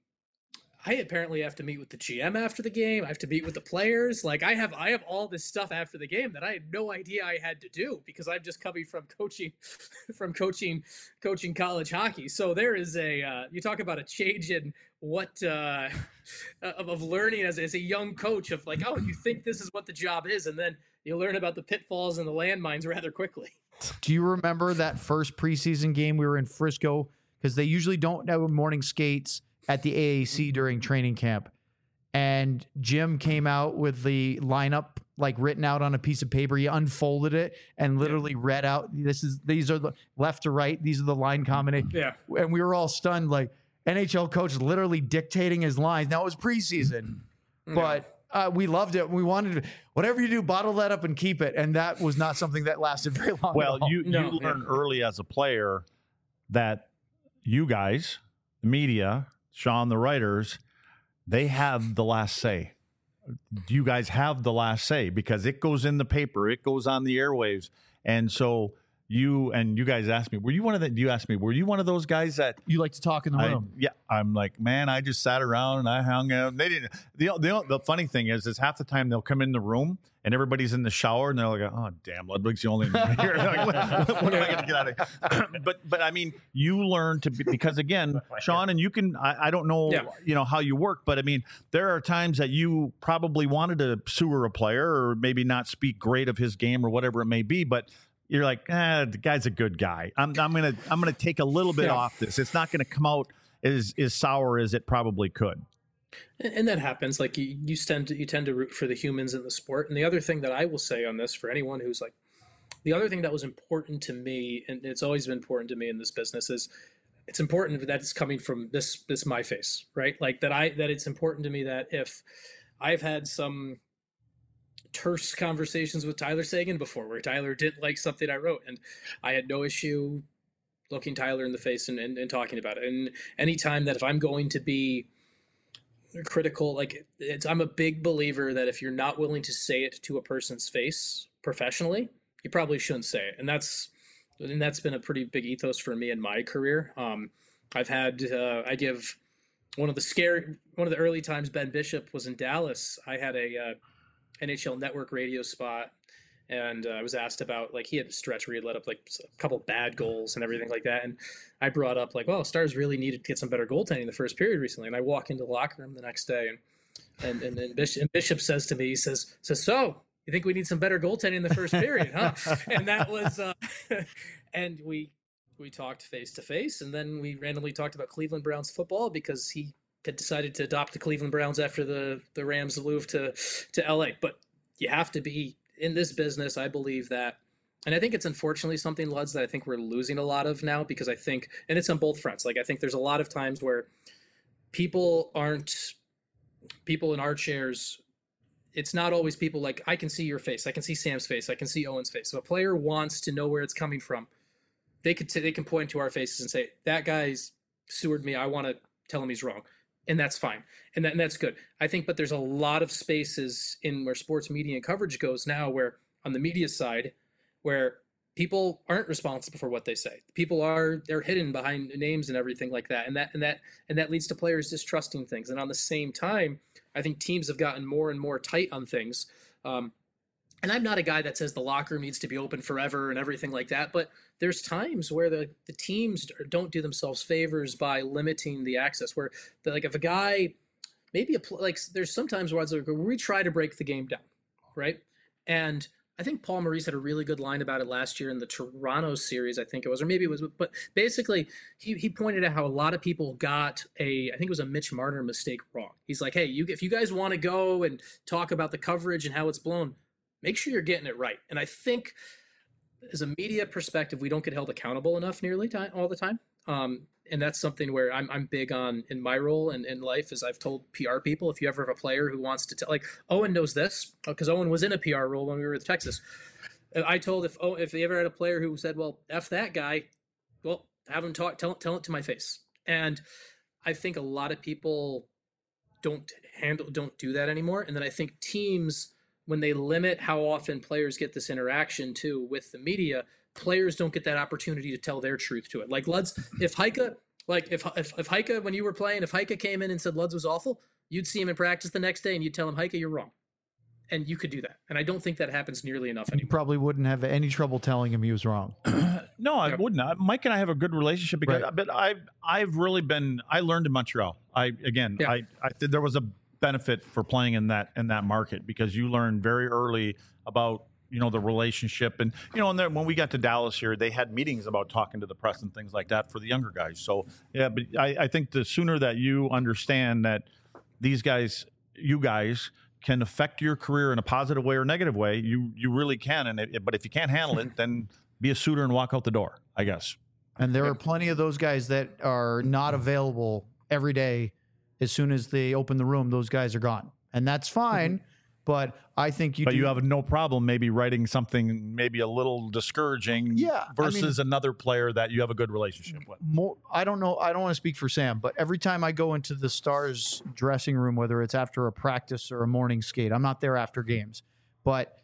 I apparently have to meet with the G M after the game. I have to meet with the players. Like I have I have all this stuff after the game that I had no idea I had to do because I'm just coming from coaching from coaching coaching college hockey. So there is a uh, you talk about a change in what uh, of, of learning as, as a young coach of like, oh, you think this is what the job is, and then you learn about the pitfalls and the landmines rather quickly. Do you remember that first preseason game we were in Frisco? Because they usually don't have morning skates at the A A C during training camp. And Jim came out with the lineup like written out on a piece of paper. He unfolded it and literally read out, this is these are the left to right, these are the line combinations. Yeah. And we were all stunned, like N H L coach literally dictating his lines. Now it was preseason, but uh, we loved it. We wanted to, whatever you do, bottle that up and keep it. And that was not something that lasted very long. Well, at all. you, No. you learn early as a player that you guys, the media, Sean, the writers, they have the last say. You guys have the last say because it goes in the paper, it goes on the airwaves. And so you and you guys asked me, were you one of the, you asked me, were you one of those guys that You like to talk in the I, room. yeah, I'm like, man, I just sat around and I hung out. They didn't. The, the the funny thing is, is half the time they'll come in the room and everybody's in the shower and they're like, oh damn, Ludwig's the only one here. Like, what, what am I going to get out of here? but but I mean, you learn to be, because again, Sean, and you can. I, I don't know, Yeah. you know how you work, but I mean, there are times that you probably wanted to sewer a player or maybe not speak great of his game or whatever it may be, but you're like, ah, the guy's a good guy. I'm, I'm gonna, I'm gonna take a little bit Yeah. off this. It's not gonna come out as as sour as it probably could. And, and that happens. Like you, you tend to you tend to root for the humans in the sport. And the other thing that I will say on this for anyone who's like, the other thing that was important to me, and it's always been important to me in this business, is it's important that it's coming from this this my face, right? Like that I that it's important to me that if I've had some terse conversations with Tyler Seguin before, where Tyler didn't like something I wrote, and I had no issue looking Tyler in the face and, and, and talking about it. And anytime that if I'm going to be critical, like it's, I'm a big believer that if you're not willing to say it to a person's face professionally, you probably shouldn't say it. And that's, and that's been a pretty big ethos for me in my career. Um, I've had, uh, I give one of the scary, one of the early times Ben Bishop was in Dallas. I had a uh, N H L Network radio spot. And uh, I was asked about, like, he had a stretch where he let up like a couple bad goals and everything like that. And I brought up like, well, Stars really needed to get some better goaltending in the first period recently. And I walk into the locker room the next day, and and and, and, Bishop, and Bishop says to me, he says, says, so you think we need some better goaltending in the first period, huh? And that was, uh, and we we talked face to face, and then we randomly talked about Cleveland Browns football because he had decided to adopt the Cleveland Browns after the the Rams moved to to L A. But you have to be. In this business, I believe that, and I think it's unfortunately something, Luds, that I think we're losing a lot of now, because I think, and it's on both fronts. Like, I think there's a lot of times where people aren't, people in our chairs, it's not always people like, I can see your face, I can see Sam's face, I can see Owen's face. So if a player wants to know where it's coming from, they could, t- they can point to our faces and say, that guy's sewered me, I want to tell him he's wrong. And that's fine. And, that, and that's good. I think, but there's a lot of spaces in where sports media and coverage goes now where on the media side, where people aren't responsible for what they say. People are, they're hidden behind names and everything like that. And that, and that, and that leads to players distrusting things. And on the same time, I think teams have gotten more and more tight on things. Um, And I'm not a guy that says the locker room needs to be open forever and everything like that, but there's times where the, the teams don't do themselves favors by limiting the access, where the, like if a guy, maybe a, like there's sometimes where, where we try to break the game down, right? And I think Paul Maurice had a really good line about it last year in the Toronto series, I think it was, or maybe it was, but basically he, he pointed out how a lot of people got a, I think it was a Mitch Marner mistake wrong. He's like, hey, you if you guys want to go and talk about the coverage and how it's blown, make sure you're getting it right. And I think as a media perspective, we don't get held accountable enough nearly time, all the time. Um, and that's something where I'm, I'm big on in my role and in life, as I've told P R people, if you ever have a player who wants to tell, like Owen knows this because Owen was in a P R role when we were with Texas. I told if, oh, if they ever had a player who said, well, F that guy, well, have him talk, tell, tell it to my face. And I think a lot of people don't handle, don't do that anymore. And then I think teams, when they limit how often players get this interaction too with the media, players don't get that opportunity to tell their truth to it. Like Luds, if Heike, like if, if, if Heike, when you were playing, if Heike came in and said Luds was awful, you'd see him in practice the next day and you'd tell him, Heike, you're wrong. And you could do that. And I don't think that happens nearly enough anymore. You probably wouldn't have any trouble telling him he was wrong. No, I Yep. wouldn't. I- Mike and I have a good relationship because, Right. but I've I've really been. I learned in Montreal. I again, Yeah. I I think there was a benefit for playing in that in that market because you learn very early about you know the relationship and you know and then when we got to Dallas here, they had meetings about talking to the press and things like that for the younger guys. So yeah, but I, I think the sooner that you understand that these guys, you guys. can affect your career in a positive way or negative way, you you really can. And it, but if you can't handle it, then be a suitor and walk out the door, I guess. And there are plenty of those guys that are not available every day. As soon as they open the room, those guys are gone. And that's fine. But I think you But do, you have no problem maybe writing something maybe a little discouraging Yeah, I versus another player that you have a good relationship with. more. I don't know. I don't want to speak for Sam, but every time I go into the Stars dressing room, whether it's after a practice or a morning skate, I'm not there after games, but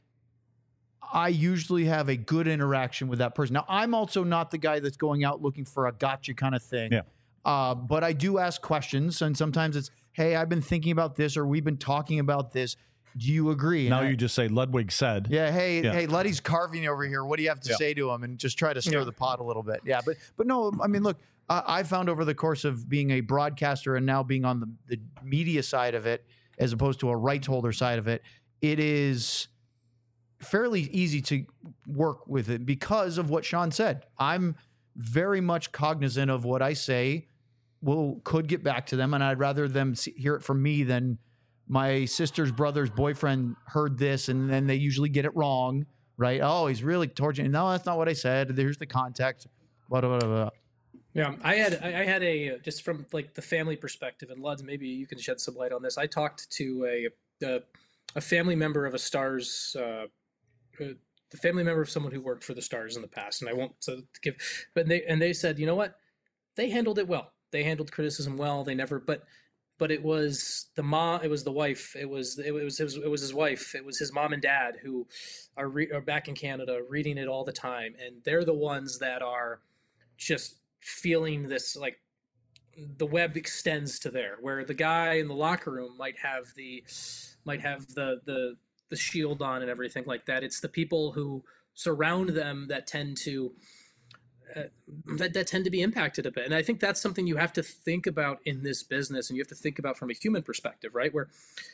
I usually have a good interaction with that person. Now, I'm also not the guy that's going out looking for a gotcha kind of thing. Yeah. Uh, but I do ask questions, and sometimes it's, hey, I've been thinking about this, or we've been talking about this. Do you agree? And Now I- you just say Ludwig said. yeah, hey, Yeah. hey, Luddy's carving over here. What do you have to Yeah. say to him? And just try to stir Yeah. the pot a little bit. Yeah, but but no, I mean, look, I, I found over the course of being a broadcaster and now being on the, the media side of it, as opposed to a rights holder side of it, it is fairly easy to work with it because of what Sean said. I'm very much cognizant of what I say will could get back to them, and I'd rather them see, hear it from me than my sister's brother's boyfriend heard this, and then they usually get it wrong, right? Oh, he's really torturing. No, that's not what I said. Here's the context. Blah, blah, blah, blah. Yeah, I had I I had a uh, just from like the family perspective, and Luds, maybe you can shed some light on this. I talked to a, a a family member of a Stars, uh, uh, the family member of someone who worked for the Stars in the past, and I won't so give, but they and they said, you know what, they handled it well. They handled criticism well. They never, but but it was the mom, it was the wife, it was it was it was, it was his wife, it was his mom and dad who are, re, are back in Canada reading it all the time, and they're the ones that are just feeling this, like the web extends to there, where the guy in the locker room might have the might have the the the shield on and everything like that. It's the people who surround them that tend to uh, that, that tend to be impacted a bit. And I think that's something you have to think about in this business, and you have to think about from a human perspective, right? Where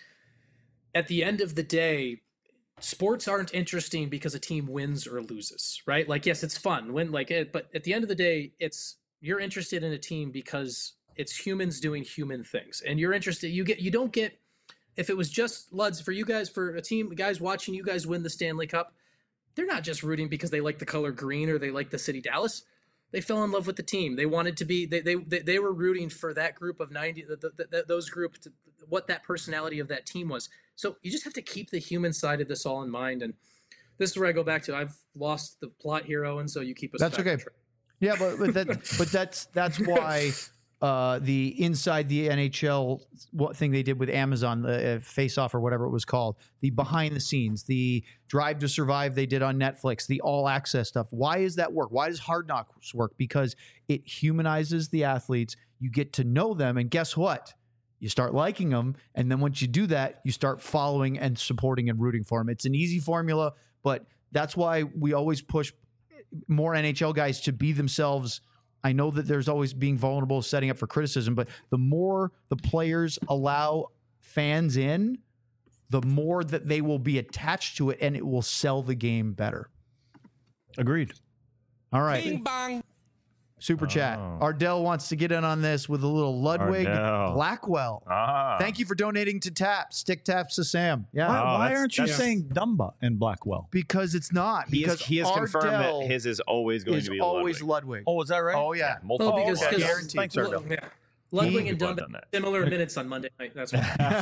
at the end of the day, sports aren't interesting because a team wins or loses, right? Like, yes, it's fun when like it, but at the end of the day, it's, you're interested in a team because it's humans doing human things, and you're interested, you get, you don't get, if it was just Luds for you guys, for a team, guys watching you guys win the Stanley Cup, they're not just rooting because they like the color green or they like the city Dallas. They fell in love with the team. They wanted to be, they they they were rooting for that group of ninety, the, the, the, those group, to, what that personality of that team was. So you just have to keep the human side of this all in mind. And this is where I go back to, I've lost the plot here, Owen, so you keep us That's back okay. on track. Yeah, but but that but that's that's why uh, the inside the N H L what thing they did with Amazon, the uh, Face Off or whatever it was called, the behind the scenes, the Drive to Survive they did on Netflix, the all access stuff. Why does that work? Why does Hard Knocks work? Because it humanizes the athletes. You get to know them, and guess what? You start liking them, and then once you do that, you start following and supporting and rooting for them. It's an easy formula, but that's why we always push more N H L guys to be themselves. I know that there's always being vulnerable, setting up for criticism, but the more the players allow fans in, the more that they will be attached to it, and it will sell the game better. Agreed. All right. Bing bong. Super chat. Oh. Ardell wants to get in on this with a little Ludwig Ardell. Blackwell. Ah. Thank you for donating to Taps. Stick Taps to Sam. Yeah. Why, Oh, why that's- aren't you that's- saying Dumba and Blackwell? Because it's not. He, because is, he has confirmed Ardell that his is always going is to be always Ludwig. Ludwig. Oh, is that right? Oh, yeah. Multiple Oh, because, people. because Guaranteed. Thanks, Ardell. yeah. Ludwig and People have Dumba, done that. similar minutes on Monday night. That's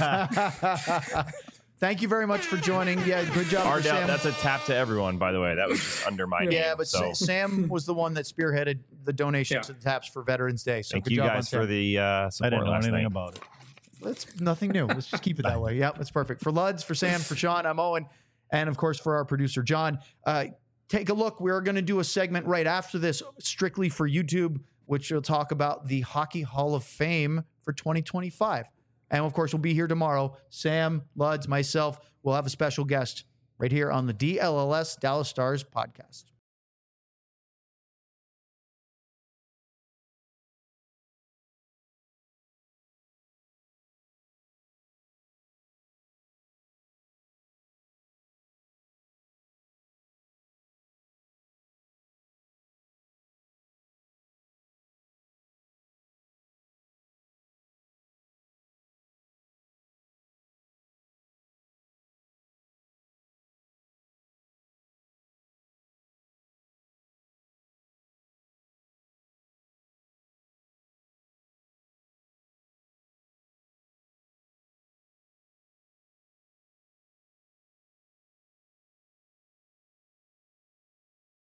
why. Thank you very much for joining. Yeah, good job, for Ardell, Sam. that's a tap to everyone, by the way. That was just under my name. yeah, but so. Sa- Sam was the one that spearheaded the donation Yeah. to the Taps for Veterans Day. So Thank good you job on guys Sam. for the uh, I support didn't know last anything night. about it. That's nothing new. Let's just keep it that way. Yeah, that's perfect. For Luds, for Sam, for Sean, I'm Owen. And of course, for our producer, John. Uh, take a look. We're going to do a segment right after this, strictly for YouTube, which will talk about the Hockey Hall of Fame for twenty twenty-five. And of course, we'll be here tomorrow. Sam, Luds, myself, we'll have a special guest right here on the D L L S Dallas Stars podcast.